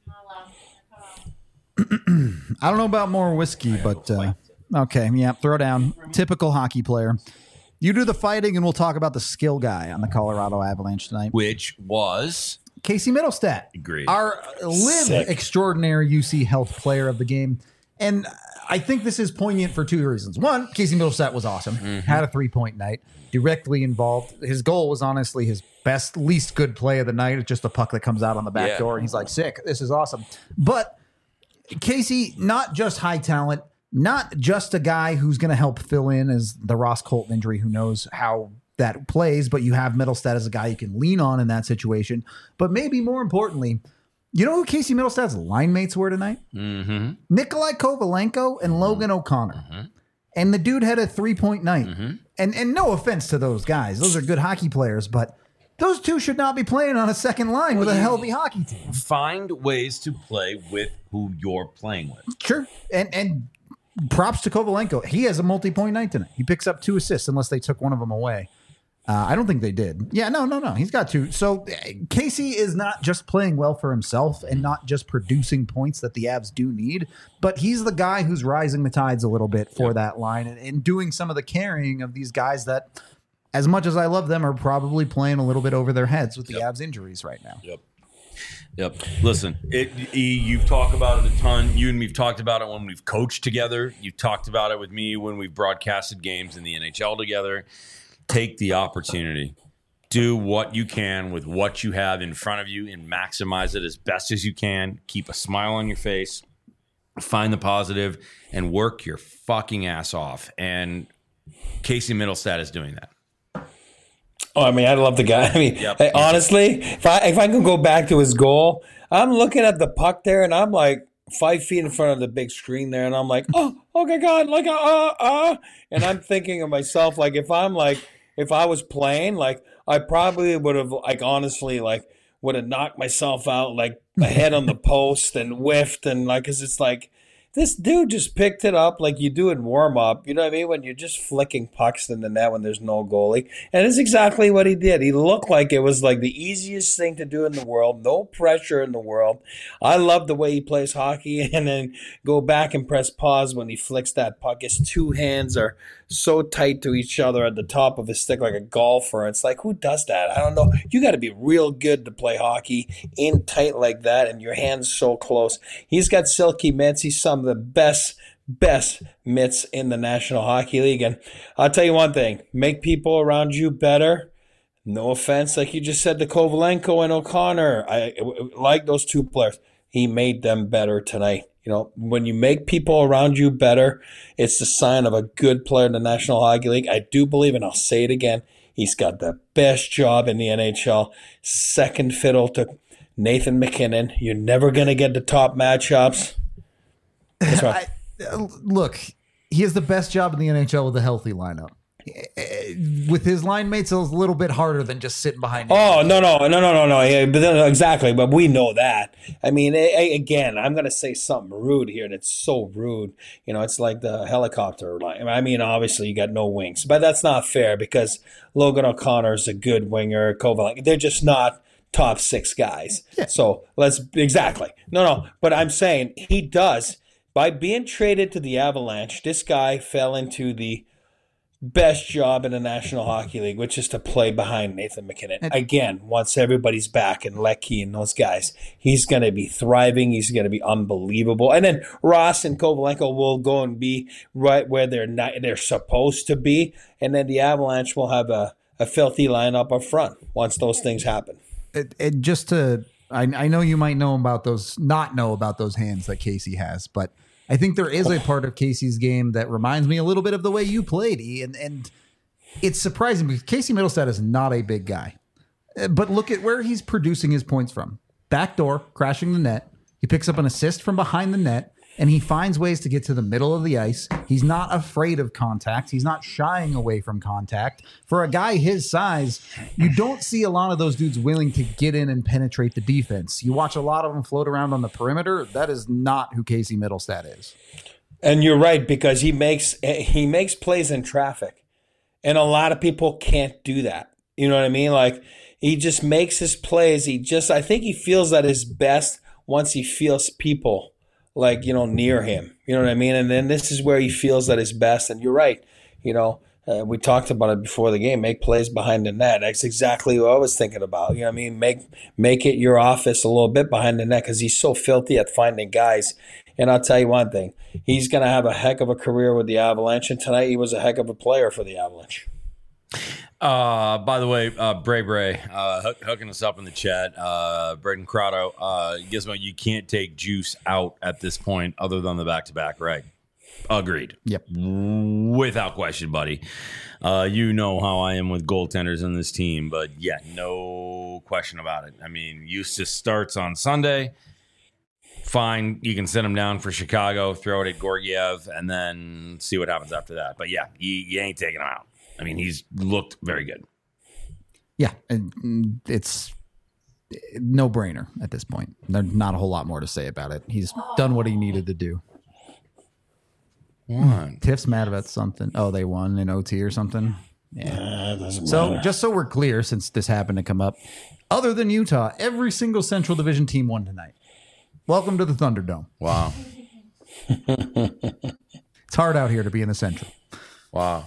I don't know about more whiskey, but uh, okay, yeah, throw down. Typical hockey player. You do the fighting, and we'll talk about the skill guy on the Colorado Avalanche tonight. Which was Casey Middlestat, Agreed. our live Sick. extraordinary U C Health player of the game. And I think this is poignant for two reasons. One, Casey Middlestat was awesome, had a three-point night, directly involved. His goal was honestly his best, least good play of the night. It's just a puck that comes out on the back Yeah. door, and he's like, sick, this is awesome. But Casey, not just high talent, not just a guy who's going to help fill in as the Ross Colton injury, who knows how that plays, but you have Middlestat as a guy you can lean on in that situation. But maybe more importantly, you know who Casey Middlestat's line mates were tonight? Mm-hmm. Nikolai Kovalenko and Logan O'Connor. And the dude had a three-point night. And and no offense to those guys. Those are good hockey players, but those two should not be playing on a second line with a healthy hockey team. Find ways to play with who you're playing with. Sure. And and props to Kovalenko. He has a multi-point night tonight. He picks up two assists unless they took one of them away. Uh, I don't think they did. Yeah, no, no, no. He's got two. So uh, Casey is not just playing well for himself and not just producing points that the Avs do need, but he's the guy who's rising the tides a little bit for that line and, and doing some of the carrying of these guys that, as much as I love them, are probably playing a little bit over their heads with the Yep. Avs injuries right now. Yep. Yep. Listen, it, E, you've talked about it a ton. You and me've talked about it when we've coached together. You've talked about it with me when we've broadcasted games in the N H L together. Take the opportunity. Do what you can with what you have in front of you and maximize it as best as you can. Keep a smile on your face. Find the positive and work your fucking ass off. And Casey Middlestat is doing that. Oh, I mean, I love the guy. I mean, Yep. hey, honestly, if I if I can go back to his goal, I'm looking at the puck there, and I'm like five feet in front of the big screen there, and I'm like, oh, oh my God, like, uh, uh, uh. And I'm thinking of myself, like, if I'm like, if I was playing, like, I probably would have, like, honestly, like, would have knocked myself out, like, ahead on the post and whiffed, and like, cause it's like, this dude just picked it up like you do in warm-up. You know what I mean? When you're just flicking pucks in the net when there's no goalie. And it's exactly what he did. He looked like it was like the easiest thing to do in the world. No pressure in the world. I love the way he plays hockey. And then go back and press pause when he flicks that puck. His two hands are so tight to each other at the top of his stick like a golfer. It's like, who does that? I don't know. You got to be real good to play hockey in tight like that and your hands so close. He's got silky mitts. He's some of the best best mitts in the National Hockey League. And I'll tell you one thing, make people around you better. No offense, like you just said to Kovalenko and O'Connor. I, I like those two players. He made them better tonight. You know, when you make people around you better, it's the sign of a good player in the National Hockey League. I do believe, and I'll say it again, he's got the best job in the N H L. Second fiddle to Nathan MacKinnon. You're never going to get the top matchups. That's right. I, look, he has the best job in the N H L with a healthy lineup. With his line mates, it's a little bit harder than just sitting behind him. Oh, no, no, no, no, no, no. Yeah, but then, exactly, but we know that. I mean, I, I, again, I'm going to say something rude here, and it's so rude. You know, it's like the helicopter line. I mean, obviously, you got no wings, but that's not fair because Logan O'Connor is a good winger. Kovalenko, they're just not top six guys. Yeah. So let's, exactly. No, no, but I'm saying he does. By being traded to the Avalanche, this guy fell into the best job in the National Hockey League, which is to play behind Nathan MacKinnon. Again, once everybody's back and Leckie and those guys, he's going to be thriving. He's going to be unbelievable. And then Ross and Kovalenko will go and be right where they're not, they're supposed to be. And then the Avalanche will have a, a filthy lineup up front once those things happen. It, it just to, I, I know you might know about those, not know about those hands that Casey has, but I think there is a part of Casey's game that reminds me a little bit of the way you played, E, and and it's surprising because Casey Middlestad is not a big guy. But look at where he's producing his points from. Backdoor, crashing the net. He picks up an assist from behind the net, and he finds ways to get to the middle of the ice. He's not afraid of contact. He's not shying away from contact. For a guy his size, you don't see a lot of those dudes willing to get in and penetrate the defense. You watch a lot of them float around on the perimeter. That is not who Casey Middlestad is. And you're right, because he makes he makes plays in traffic. And a lot of people can't do that. You know what I mean? Like, he just makes his plays. He just, I think he feels at his best once he feels people like, you know, near him, you know what I mean? And then this is where he feels at his best. And you're right. You know, uh, we talked about it before the game, make plays behind the net. That's exactly what I was thinking about. You know what I mean? Make, make it your office a little bit behind the net because he's so filthy at finding guys. And I'll tell you one thing, he's going to have a heck of a career with the Avalanche. And tonight he was a heck of a player for the Avalanche. Uh, by the way, uh, Bray Bray, uh, hook, hooking us up in the chat. Uh, Braden Crotto, uh, Gizmo, you can't take Juice out at this point other than the back-to-back, right? Agreed. Yep. Without question, buddy. Uh, you know how I am with goaltenders in this team, but yeah, no question about it. I mean, Eustace starts on Sunday. Fine, you can send him down for Chicago, throw it at Gorgiev, and then see what happens after that. But yeah, you, you ain't taking him out. I mean, he's looked very good. Yeah, and it's no brainer at this point. There's not a whole lot more to say about it. He's done what he needed to do. What? Tiff's mad about something. Oh, they won in O T or something. Yeah. Uh, so matter. just so we're clear, since this happened to come up, other than Utah, every single Central Division team won tonight. Welcome to the Thunderdome. Wow. It's hard out here to be in the Central. Wow.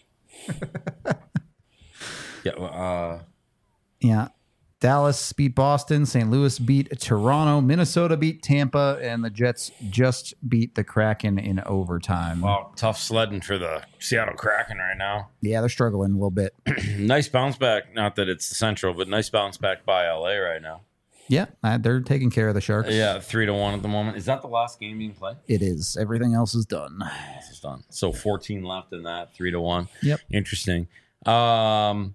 yeah. Uh, yeah. Dallas beat Boston. Saint Louis beat Toronto. Minnesota beat Tampa. And the Jets just beat the Kraken in overtime. wow. Tough sledding for the Seattle Kraken right now. Yeah, they're struggling a little bit. Nice bounce back. Not that it's the Central, but nice bounce back by L A right now. Yeah, uh, they're taking care of the Sharks. Yeah, three to one at the moment. Is that the last game being played? It is. Everything else is done. This is done. So fourteen left in that, three to one. Yep. Interesting. Um,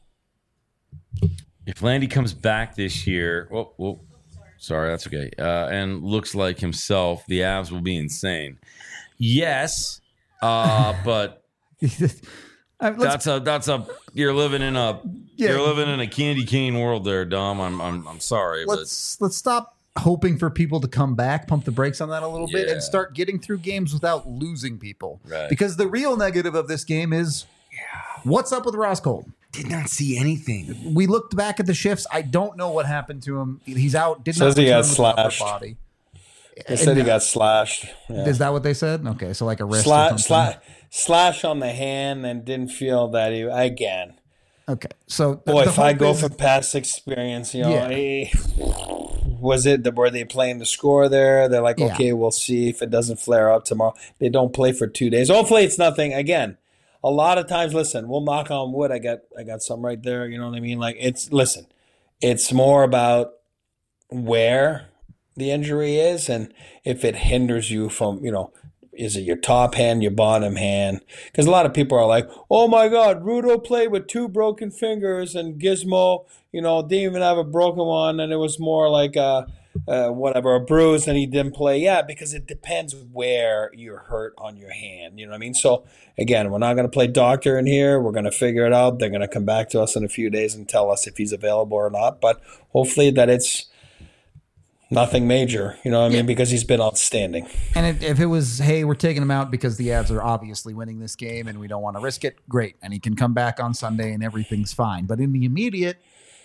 if Landy comes back this year, whoa, whoa, sorry, that's okay. Uh, and looks like himself, the Avs will be insane. Yes, uh, but Uh, let's- that's a that's a you're living in a Yeah. you're living in a candy cane world there, Dom. I'm I'm I'm sorry, let's let's stop hoping for people to come back, pump the brakes on that a little bit, Yeah. and start getting through games without losing people. Right. Because the real negative of this game is what's up with Ross Colton? did not see anything. We looked back at the shifts. I don't know what happened to him. He's out. Did Says not he got return with an upper slashed. body. They said he got slashed. Yeah. Is that what they said? Okay, so like a wrist or Sla- something. sla- slash on the hand and didn't feel that he, again, Okay, so the, Boy, the if I hope go is- from past experience, you know, Yeah. eh, was it the, were they playing the score there? They're like, Yeah. okay, we'll see if it doesn't flare up tomorrow. They don't play for two days. Hopefully, it's nothing. Again, a lot of times, listen, we'll knock on wood. I got, I got some right there. You know what I mean? Like it's listen, it's more about where the injury is and if it hinders you from, you know. Is it your top hand, your bottom hand? Because a lot of people are like, oh my God, Rudo played with two broken fingers and Gizmo, you know, didn't even have a broken one. And it was more like a, uh, whatever, a bruise and he didn't play. Yeah, because it depends where you're hurt on your hand. You know what I mean? So again, we're not going to play doctor in here. We're going to figure it out. They're going to come back to us in a few days and tell us if he's available or not. But hopefully that it's nothing major, you know what I mean? Yeah. Because he's been outstanding. And if, if it was, hey, we're taking him out because the Avs are obviously winning this game and we don't want to risk it, great. And he can come back on Sunday and everything's fine. But in the immediate,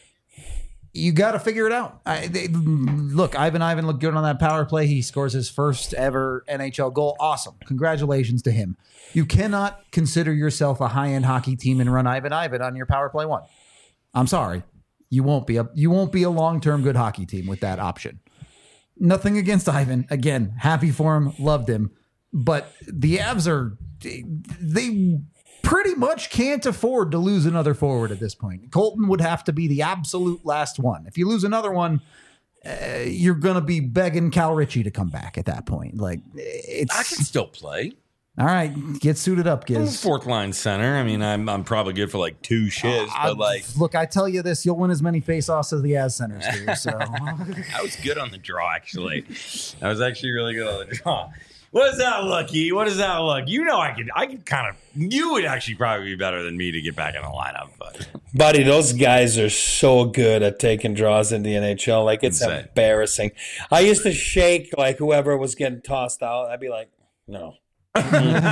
you got to figure it out. I, they, look, Ivan Ivan looked good on that power play. He scores his first ever N H L goal. Awesome. Congratulations to him. You cannot consider yourself a high-end hockey team and run Ivan Ivan on your power play one. I'm sorry. You won't be a you won't be a long-term good hockey team with that option. Nothing against Ivan. Again, happy for him, loved him. But the Avs are, they pretty much can't afford to lose another forward at this point. Colton would have to be the absolute last one. If you lose another one, uh, you're going to be begging Cal Ritchie to come back at that point. Like, it's I can still play. all right. Get suited up, I'm a Giz. fourth line center. I mean, I'm I'm probably good for like two shifts, I- but like look, I tell you this, you'll win as many faceoffs as the Avs centers do. So I was good on the draw. Actually, I was actually really good on the draw. What does that look, E? What does that look? You know, I could I could kind of. You would actually probably be better than me to get back in the lineup, but Buddy, those guys are so good at taking draws in the N H L. Like, it's Insane. embarrassing. I used to shake, like, whoever was getting tossed out. I'd be like, no. like,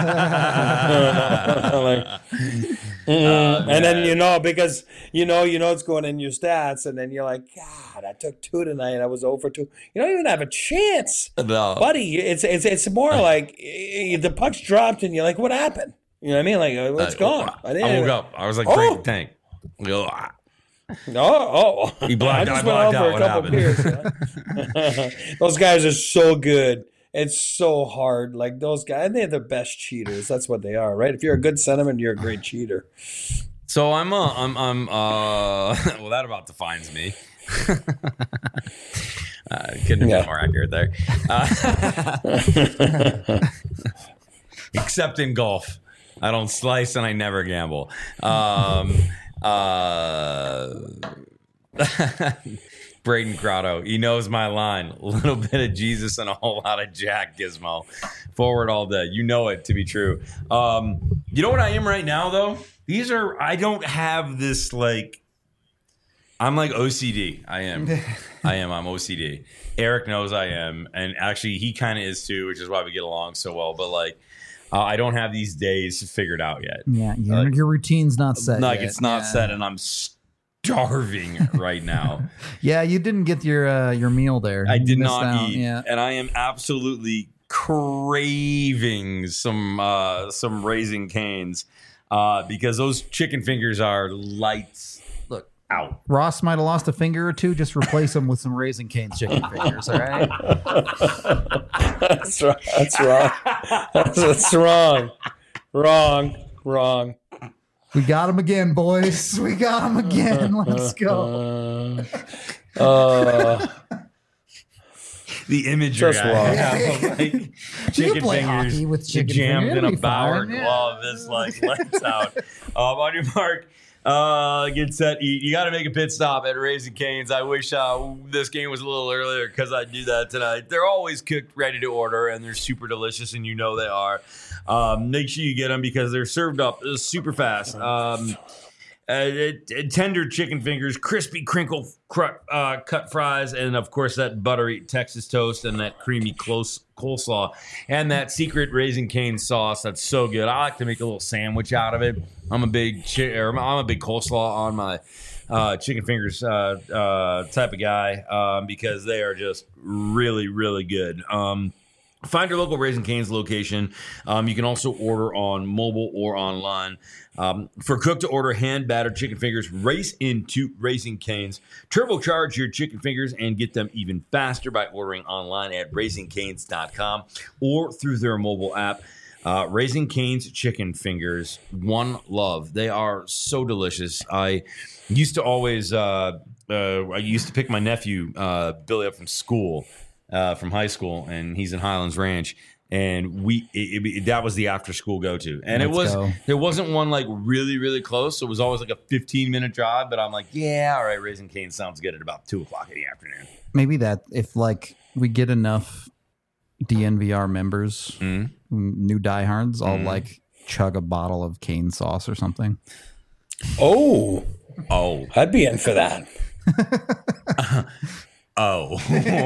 mm. And then, you know, because, you know, you know it's going in your stats, and then you're like, God, I took two tonight. I was over two. You don't even have a chance. no. Buddy, it's it's it's more like eh, the puck's dropped, and you're like, what happened? You know what I mean? Like, uh, it's Uh, gone. I, didn't woke even- up. I was like, Oh. break the tank. Go, ah. Oh, oh. He blacked- I just I went out blacked for out. a What couple happened? beers. Yeah. Those guys are so good. It's so hard. Like, those guys, they're the best cheaters. That's what they are, right? If you're a good sentiment, you're a great cheater. So I'm uh, I'm I'm uh well that about defines me. uh, couldn't have Yeah. been more accurate there. Uh, except in golf, I don't slice and I never gamble. Um, uh, Braden Grotto, he knows my line. A little bit of Jesus and a whole lot of Jack Gizmo. Forward all day. You know it to be true. Um, you know what I am right now, though? These are, I don't have this, like, I'm like O C D. I am. I am. I'm O C D. Eric knows I am. And actually, he kind of is too, which is why we get along so well. But, like, uh, I don't have these days figured out yet. yeah, your, Like- your routine's not set. Like, yet. it's not Yeah. set, and I'm starving right now. Yeah, you didn't get your uh, your meal there. I You did missed not out. eat, Yeah. and I am absolutely craving some uh, some Raising Canes uh, because those chicken fingers are lights Look, out. Ross might have lost a finger or two. Just replace them with some Raising Cane's chicken fingers. All right. That's wrong. That's wrong. That's, that's wrong. Wrong. Wrong. We got him again, boys. We got him again. Let's go. Uh, uh, The imagery Just I wrong. have of, like, chicken play fingers hockey with chicken jammed fingers. in It'll a be Bauer fine, yeah. glove. This like lights out. Um, on your mark. Uh, get set, eat. You got to make a pit stop at Raising Cane's. I wish uh, this game was a little earlier because I do that tonight. They're always cooked, ready to order, and they're super delicious, and you know they are. Um, make sure you get them because they're served up super fast. Um, uh, it- it- tender chicken fingers, crispy crinkle cr- uh, cut fries, and of course that buttery Texas toast and that creamy close coleslaw and that secret Raising Cane sauce. That's so good. I like to make a little sandwich out of it. I'm a big chi- or I'm a big coleslaw on my uh, chicken fingers uh, uh, type of guy um, because they are just really really good. Um, Find your local Raising Cane's location. Um, you can also order on mobile or online. Um, for cook-to-order hand-battered chicken fingers, race into Raising Cane's. Turbocharge your chicken fingers and get them even faster by ordering online at raising canes dot com or through their mobile app. Uh, Raising Cane's chicken fingers, one love. They are so delicious. I used to always, uh, uh, I used to pick my nephew, uh, Billy, up from school. Uh, from high school, and he's in Highlands Ranch, and we it, it, that was the after school go to, and Let's it was go. there wasn't one like really really close, so it was always like a fifteen minute drive. But I'm like, yeah, all right, Raising Cane sounds good at about two o'clock in the afternoon. Maybe that if like we get enough D N V R members, Mm. new diehards, I'll Mm. like chug a bottle of cane sauce or something. Oh, Oh, I'd be in for that. oh.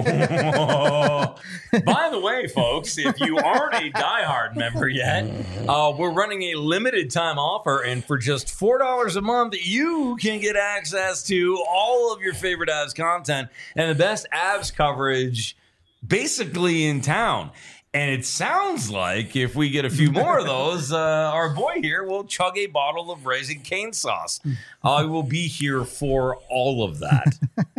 By the way, folks, if you aren't a diehard member yet, uh, we're running a limited time offer, and for just four dollars a month, you can get access to all of your favorite Avs content and the best Avs coverage basically in town. And it sounds like if we get a few more of those, uh, our boy here will chug a bottle of Raising Cane sauce. I will be here for all of that.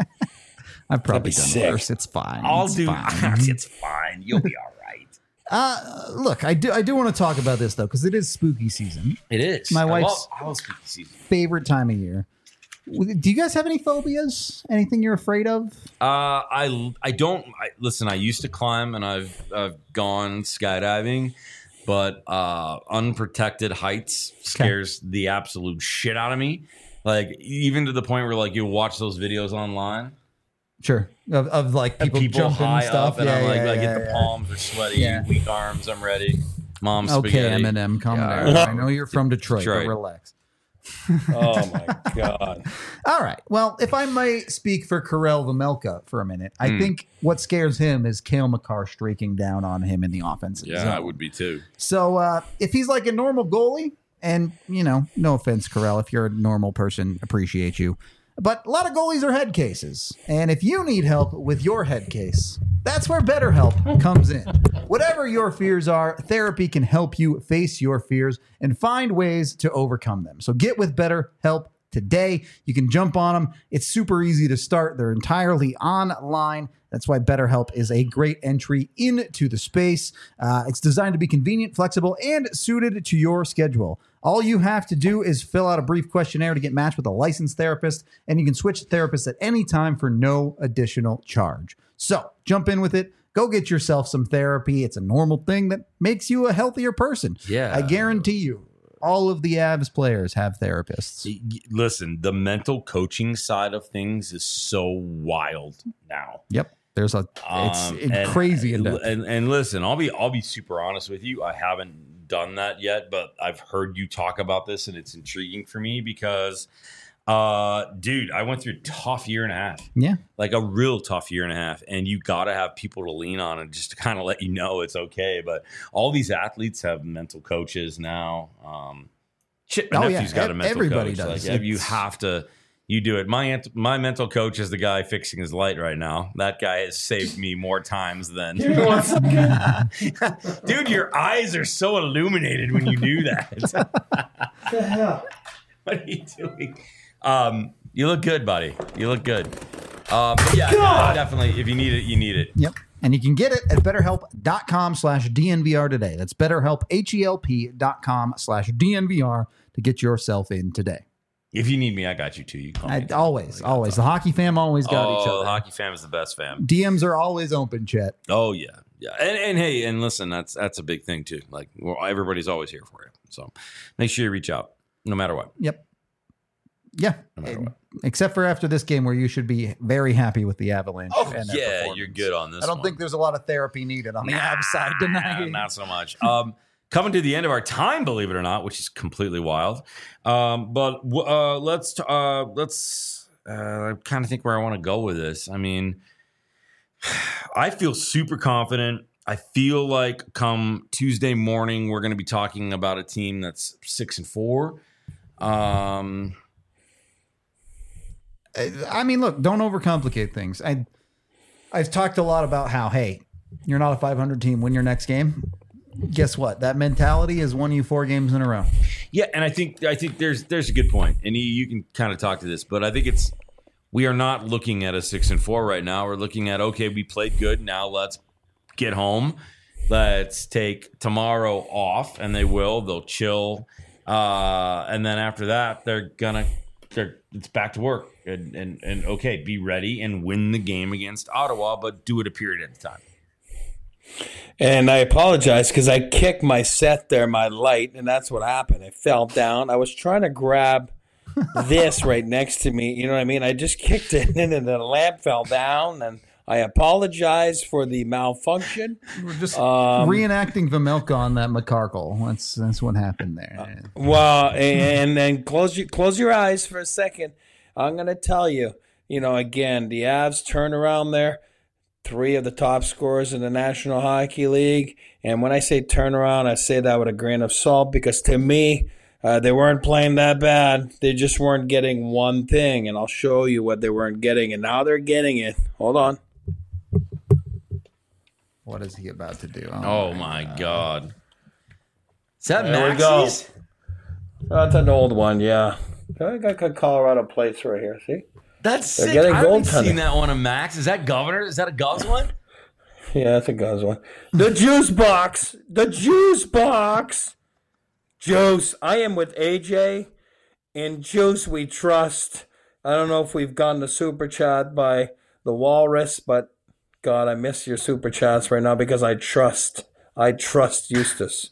I've probably be done sick. worse. It's fine. I'll It's do. fine. It's fine. You'll be all right. Uh, look, I do. I do want to talk about this though because it is spooky season. It is. My I wife's- love, I love spooky season. Favorite time of year. Do you guys have any phobias? Anything you're afraid of? Uh, I I don't I, listen. I used to climb, and I've I've gone skydiving, but uh, unprotected heights scares the absolute shit out of me. Like even to the point where like you watch those videos online. Sure. Of, of like And people, people jumping high and stuff. up, and yeah, I'm like, yeah, I yeah, get the yeah. palms are sweaty, Yeah. weak arms. I'm ready. Mom Okay, spaghetti. Eminem, calm Yeah. down. I know you're from Detroit, Detroit. but relax. Oh my god. All right. Well, if I might speak for Karel Vemelka for a minute, I Hmm. think what scares him is Cale Makar streaking down on him in the offensive Yeah, zone. I would be too. So uh, if he's like a normal goalie, and, you know, no offense, Karel, if you're a normal person, appreciate you. But a lot of goalies are head cases. And if you need help with your head case, that's where BetterHelp comes in. Whatever your fears are, therapy can help you face your fears and find ways to overcome them. So get with BetterHelp today. You can jump on them. It's super easy to start. They're entirely online. That's why BetterHelp is a great entry into the space. Uh, it's designed to be convenient, flexible, and suited to your schedule. All you have to do is fill out a brief questionnaire to get matched with a licensed therapist, and you can switch therapists at any time for no additional charge. So jump in with it. Go get yourself some therapy. It's a normal thing that makes you a healthier person. Yeah. I guarantee you, all of the Avs players have therapists. Y- y- Listen, the mental coaching side of things is so wild now. Yep. There's a it's Um, it- and- crazy in depth. And, and listen, I'll be I'll be super honest with you. I haven't done that yet, but I've heard you talk about this, and it's intriguing for me because, uh, dude, I went through a tough year and a half, Yeah. like a real tough year and a half, and you got to have people to lean on and just to kind of let you know it's okay. But all these athletes have mental coaches now. Um, shit, my Oh, yeah. nephew's got a Ev- mental everybody coach. does. Like you It's- have to. You do it. My ant- my mental coach is the guy fixing his light right now. That guy has saved me more times than. Dude, your eyes are so illuminated when you do that. What are you doing? Um, you look good, buddy. You look good. Um, but yeah, definitely. If you need it, you need it. Yep. And you can get it at betterhelp.com slash DNVR today. That's betterhelp, H-E-L-P dot com slash DNVR to get yourself in today. If you need me, I got you too. You call I, me. always, always. The hockey fam always got oh, each the other. hockey fam is the best fam. D Ms are always open, Chet. Oh yeah, yeah. And, and hey, and listen, that's that's a big thing too. Like well, everybody's always here for you. So make sure you reach out, no matter what. Yep. Yeah. No matter what. Except for after this game where you should be very happy with the Avalanche. Oh and their yeah, performance. you're good on this. I don't one. think there's a lot of therapy needed on the Nah, Avs side tonight. Not so much. Um, coming to the end of our time, believe it or not, which is completely wild. Um, but uh, let's uh, let's. Uh, I kind of think where I want to go with this. I mean, I feel super confident. I feel like come Tuesday morning, we're going to be talking about a team that's six and four. Um, I mean, look, don't overcomplicate things. I, I've talked a lot about how, hey, You're not a five hundred team. Win your next game. Guess what? That mentality has won you four games in a row. Yeah, and I think I think there's there's a good point, and you, you can kind of talk to this, but I think it's we are not looking at a six and four right now. We're looking at okay, we played good. Now let's get home. Let's take tomorrow off, and they will. They'll chill, uh, and then after that, they're gonna. They're, it's back to work, and, and and okay, be ready and win the game against Ottawa, but do it a period at a time. And I apologize because I kicked my set there, my light, and that's what happened. It fell down. I was trying to grab this right next to me. You know what I mean? I just kicked it, and then the lamp fell down, and I apologize for the malfunction. We're just Um, reenacting Vamelka on that McCarkle. That's that's what happened there. Well, and then close your close your eyes for a second. I'm going to tell you, you know, again, the Avs turn around there. Three of the top scorers in the National Hockey League. And when I say turnaround, I say that with a grain of salt because to me, uh, they weren't playing that bad. They just weren't getting one thing. And I'll show you what they weren't getting. And now they're getting it. Hold on. What is he about to do? Oh, my God. Is that There we go. Maxie's? That's an old one, yeah. I got Colorado plates right here, see? That's They're sick. getting I haven't goaltending. seen that one of Max. Is that Governor? Is that a Govs one? Yeah, that's a Guz one. The juice box. The juice box. Juice. I am with A J. In Juice we trust. I don't know if we've gotten a super chat by the Walrus, but God, I miss your super chats right now because I trust. I trust Eustace.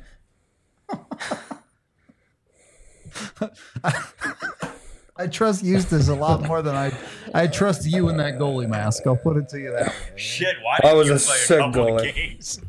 I trust Eustace a lot more than I I trust you in that goalie mask. I'll put it to you that way. Shit, why That didn't was you a play a sick couple of goalie. games?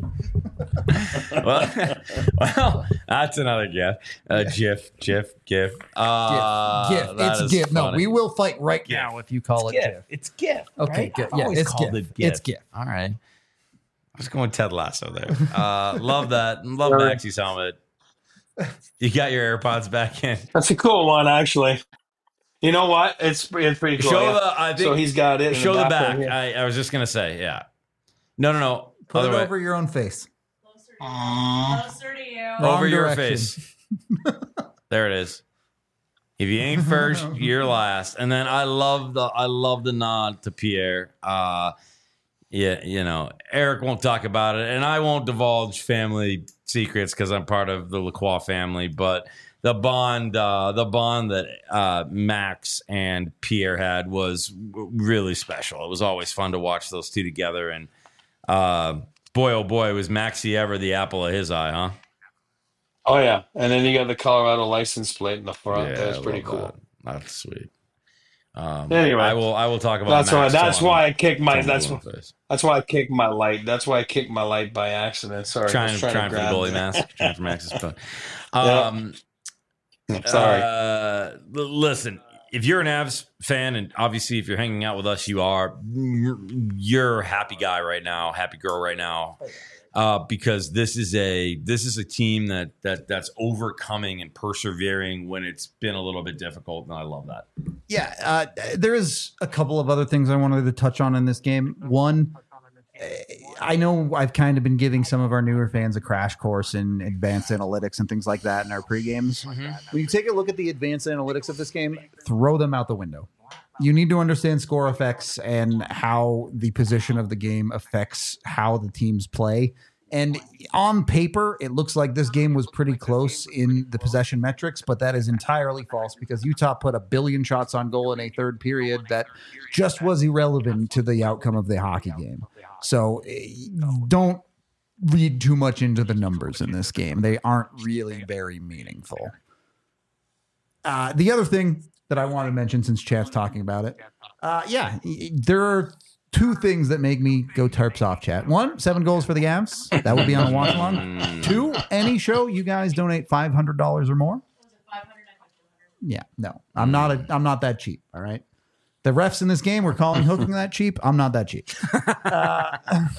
well, well, that's another gif. Uh, GIF, GIF, GIF. Uh, GIF. that It's is GIF. No, funny. we will fight right GIF. now if you call it GIF. It's GIF. Okay, right? GIF. I've Yeah, always it's called GIF. it GIF. It's GIF. All right. I was going Ted Lasso there. Uh, love that. Love Maxie's helmet. You got your AirPods back in. That's a cool one, actually. You know what? It's it's pretty cool. Show yeah. the. I think. So he's got it. in Show the back back. right here. I, I was just gonna say, yeah. No, no, no. Put Other it way. over your own face. Closer to you. Closer to you. Wrong Over your direction. face. There it is. If you ain't first, you're last. And then I love the I love the nod to Pierre. Uh, yeah, you know, Eric won't talk about it, and I won't divulge family secrets because I'm part of the Lacroix family. But the bond, uh, the bond that uh, Max and Pierre had was w- really special. It was always fun to watch those two together. And uh, boy, oh boy, was Maxie ever the apple of his eye, huh? Oh yeah, and then you got the Colorado license plate in the front. Yeah, That's I pretty love cool. that. That's sweet. Um, Anyway, I will. I will talk about. That's why. Max That's till why I'm- I kicked my. till I'm That's blue why. in the face. That's why I kicked my light. That's why I kicked my light by accident. Sorry, I Trying, was trying, trying, for to the grab goalie it. mask. Trying for Max's phone. Um, Sorry. Uh, l- listen, if you're an Avs fan, and obviously if you're hanging out with us, you are. You're a happy guy right now, happy girl right now, uh, because this is a this is a team that that that's overcoming and persevering when it's been a little bit difficult, and I love that. Yeah, uh, there is a couple of other things I wanted to touch on in this game. One, I know I've kind of been giving some of our newer fans a crash course in advanced analytics and things like that in our pre-games. When you take a look at the advanced analytics of this game, throw them out the window. You need to understand score effects and how the position of the game affects how the teams play. And on paper, it looks like this game was pretty close in the possession metrics, but that is entirely false because Utah put a billion shots on goal in a third period that just was irrelevant to the outcome of the hockey game. So eh, don't read too much into the numbers in this game. They aren't really very meaningful. Uh, the other thing that I want to mention since Chat's talking about it, uh, yeah, there are two things that make me go Terps off, Chat. One, seven goals for the Avs. That would be on a watch along. Two, any show you guys donate five hundred dollars or more. Yeah, no, I'm not a, I'm not that cheap. All right. The refs in this game were calling hooking that cheap. I'm not that cheap. Uh,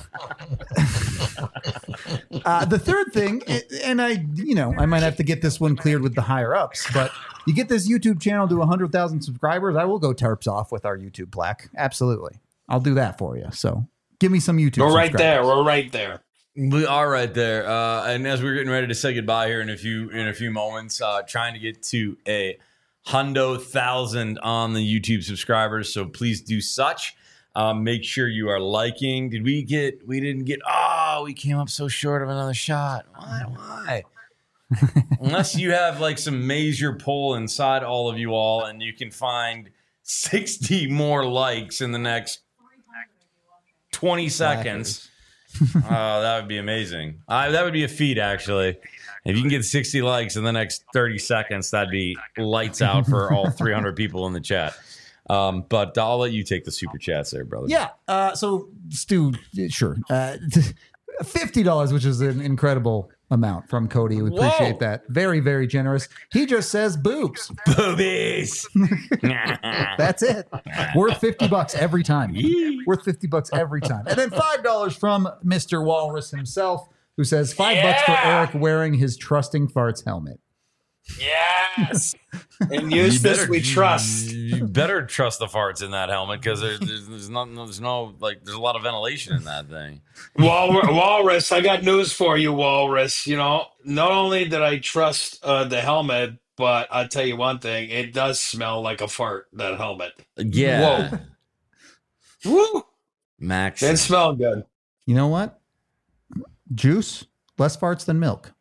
uh, the third thing, and I, you know, I might have to get this one cleared with the higher ups, but you get this YouTube channel to one hundred thousand subscribers, I will go Terps off with our YouTube plaque. Absolutely. I'll do that for you. So Give me some YouTube. We're right there. subscribers. We're right there. We are right there. Uh, and as we're getting ready to say goodbye here in a few in a few moments, uh, trying to get to a hundo thousand on the YouTube subscribers. So please do such. Um, make sure you are liking. Did we get? We didn't get. Oh, we came up so short of another shot. Why? Why? Unless you have like some major poll inside all of you all, and you can find sixty more likes in the next twenty seconds. Oh, that would be amazing. Uh, that would be a feat, actually. If you can get sixty likes in the next thirty seconds, that'd be lights out for all three hundred people in the chat. Um, but I'll let you take the super chats there, brother. Yeah. Uh, so, Stu, sure. Uh, fifty dollars, which is an incredible amount from Cody. We appreciate Whoa. that. Very, very generous. He just says boobs. Boobies. That's it. Worth fifty bucks every time. Worth fifty bucks every time. And then five dollars from Mister Walrus himself, who says five Yeah. bucks for Eric wearing his Trusting Farts helmet. Yes. And You use this better- we trust. You better trust the farts in that helmet because there's, there's there's not there's no like there's a lot of ventilation in that thing. Wal- Walrus, I got news for you, Walrus. You know, not only did I trust uh, the helmet, but I'll tell you one thing: it does smell like a fart. That helmet. Yeah. Woo! Max. Didn't smell good. You know what? Juice, less farts than milk.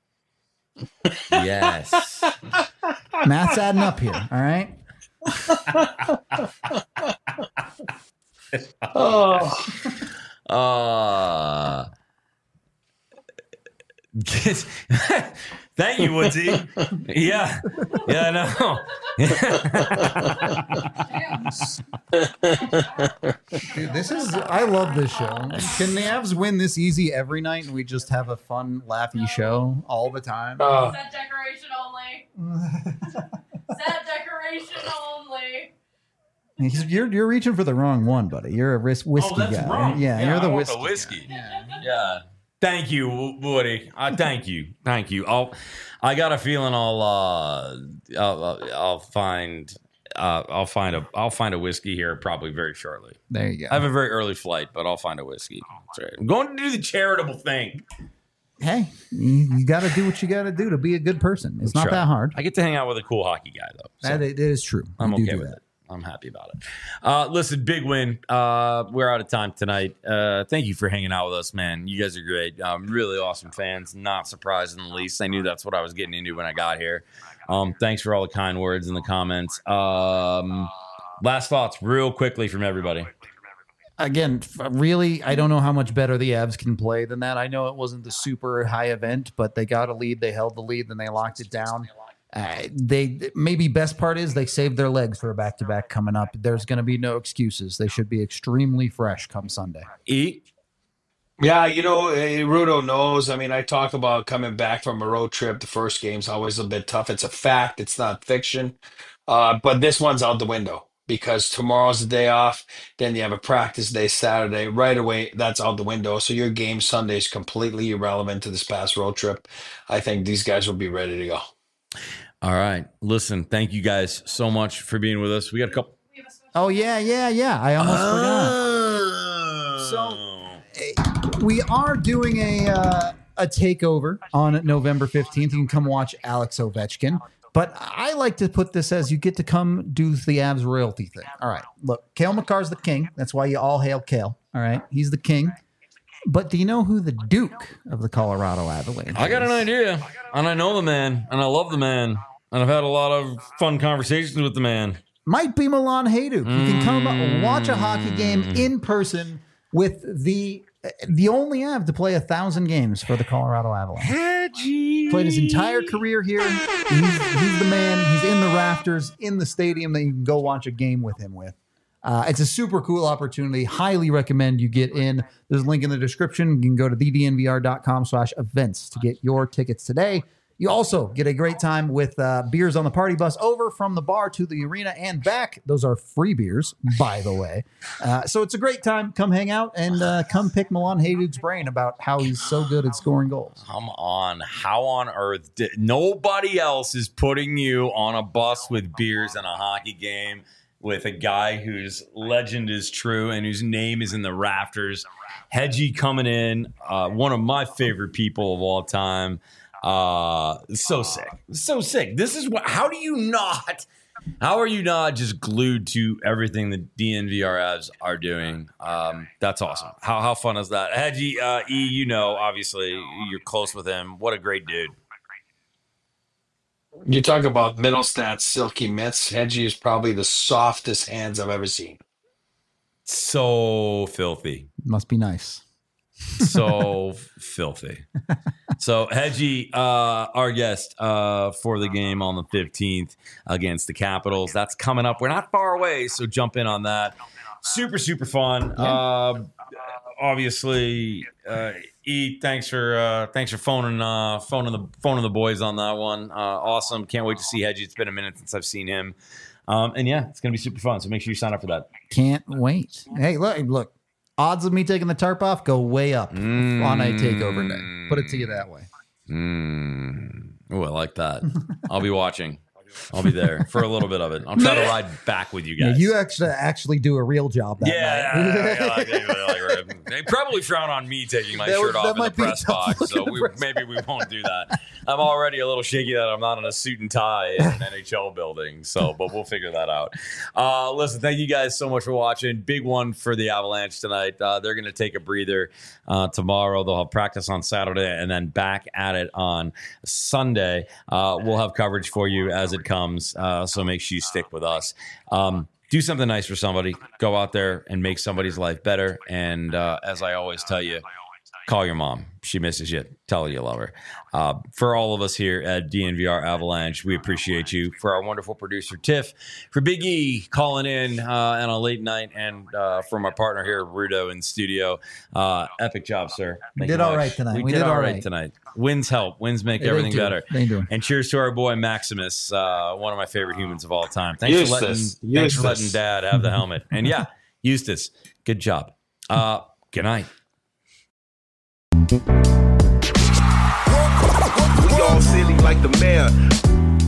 Yes. Math's adding up here. All right. Oh, Uh, get- thank you, Woodsy. Yeah. Yeah, I know. Dude, this is, I love this show. Can the Avs win this easy every night and we just have a fun, laughy show all the time? oh. Set decoration only. Set decoration only. He's- You're you're reaching for the wrong one, buddy. You're a whis- whiskey Oh, that's guy. wrong. Yeah, Yeah, you're I the want whiskey. the whiskey. guy. Yeah. Yeah. Thank you, Wo- Woody. I thank you. Thank you. I'll. I got a feeling I'll. Uh, I'll, I'll. I'll find. Uh, I'll find a. I'll find a whiskey here probably very shortly. There you I have go. a very early flight, but I'll find a whiskey. That's right. I'm going to do the charitable thing. Hey, you, you got to do what you got to do to be a good person. It's not Try. that hard. I get to hang out with a cool hockey guy though. So That it is true. I'm You do okay do with that. it. I'm happy about it. Uh, listen, big win. Uh, we're out of time tonight. Uh, thank you for hanging out with us, man. You guys are great. Um, really awesome fans. Not surprised in the least. I knew that's what I was getting into when I got here. Um, thanks for all the kind words in the comments. Um, last thoughts, real quickly from everybody. Again, f- really, I don't know how much better the Avs can play than that. I know it wasn't the super high event, but they got a lead. They held the lead, then they locked it down. Uh, they maybe best part is they saved their legs for a back to back coming up. There's going to be no excuses. They should be extremely fresh come Sunday. E. Yeah, you know, eh, Rudo knows. I mean, I talk about coming back from a road trip. The first game's always a bit tough. It's a fact. It's not fiction. Uh, but this one's out the window because tomorrow's the day off. Then you have a practice day Saturday. Right away, that's out the window. So your game Sunday is completely irrelevant to this past road trip. I think these guys will be ready to go. All right. Listen, thank you guys so much for being with us. We got a couple. Oh, yeah, yeah, yeah. I almost forgot. So We are doing a uh, a takeover on November fifteenth. You can come watch Alex Ovechkin. But I like to put this as you get to come do the Avs royalty thing. All right. Look, Cale Makar's the king. That's why you all hail Cale. All right. He's the king. But do you know who the Duke of the Colorado Avalanche I got an is? idea, and I know the man, and I love the man, and I've had a lot of fun conversations with the man. Might be Milan Hajduk. You can come watch a hockey game in person with the the only Av to play a thousand games for the Colorado Avalanche. Played his entire career here. He's, he's the man. He's in the rafters in the stadium that you can go watch a game with him with. Uh, it's a super cool opportunity. Highly recommend you get in. There's a link in the description. You can go to the d n v r dot com slash events to get your tickets today. You also get a great time with uh, beers on the party bus over from the bar to the arena and back. Those are free beers, by the way. Uh, so it's a great time. Come hang out and uh, come pick Milan Hajduk's brain about how he's so good at scoring goals. Come on. How on earth did nobody else is putting you on a bus with beers and a hockey game? with a guy whose legend is true and whose name is in the rafters. Hedgie coming in, uh, one of my favorite people of all time. Uh, so sick, so sick. This is what. How do you not? How are you not just glued to everything the D N V R Avs are doing? Um, that's awesome. How how fun is that? Hedgie, uh, E, you know, obviously you're close with him. What a great dude. You talk about Middlestats silky mitts. Hedgie is probably the softest hands I've ever seen. So filthy. Must be nice. So filthy. So Hedgie, uh, our guest uh, for the game on the fifteenth against the Capitals. That's coming up. We're not far away, so jump in on that. Super, super fun. Yeah. Uh, obviously, uh, E, thanks for uh, thanks for phoning uh, phoning the phoning the boys on that one. Uh, awesome. Can't wait to see Hedgie. It's been a minute since I've seen him. Um, and yeah, it's gonna be super fun. So make sure you sign up for that. Can't wait. Hey, look, look. Odds of me taking the tarp off go way up Mm. on a takeover day. Put it to you that way. Mm. Oh, I like that. I'll be watching. I'll be there for a little bit of it. I'll try to ride back with you Yeah, guys. you actually actually do a real job that yeah, night. yeah, yeah, yeah, like, they probably frown on me taking my That shirt would- off that in the might be a press tough box, look so in the we, press maybe we won't do that. I'm already a little shaky that I'm not in a suit and tie in an N H L building, so but we'll figure that out. Uh, listen, thank you guys so much for watching. Big one for the Avalanche tonight. Uh, they're going to take a breather uh, tomorrow. They'll have practice on Saturday and then back at it on Sunday. Uh, we'll have coverage for you as it comes, uh, so make sure you stick with us. Um, do something nice for somebody. Go out there and make somebody's life better. And uh, as I always tell you, call your mom. She misses you. Tell her you love her. Uh, for all of us here at D N V R Avalanche, we appreciate you. For our wonderful producer, Tiff. For Big E calling in uh, on a late night. And uh, from our partner here, Rudo in studio. Uh, epic job, sir. We Thank did you all much. right tonight. We, We did, did all all right right. tonight. Wins help. Wins make They everything do. better. They do. And cheers to our boy, Maximus, uh, one of my favorite humans of all time. Thanks for letting, Eustace. thanks for letting Eustace. Dad have the helmet. And yeah, Eustace, good job. Uh, good night. We all silly like the mayor.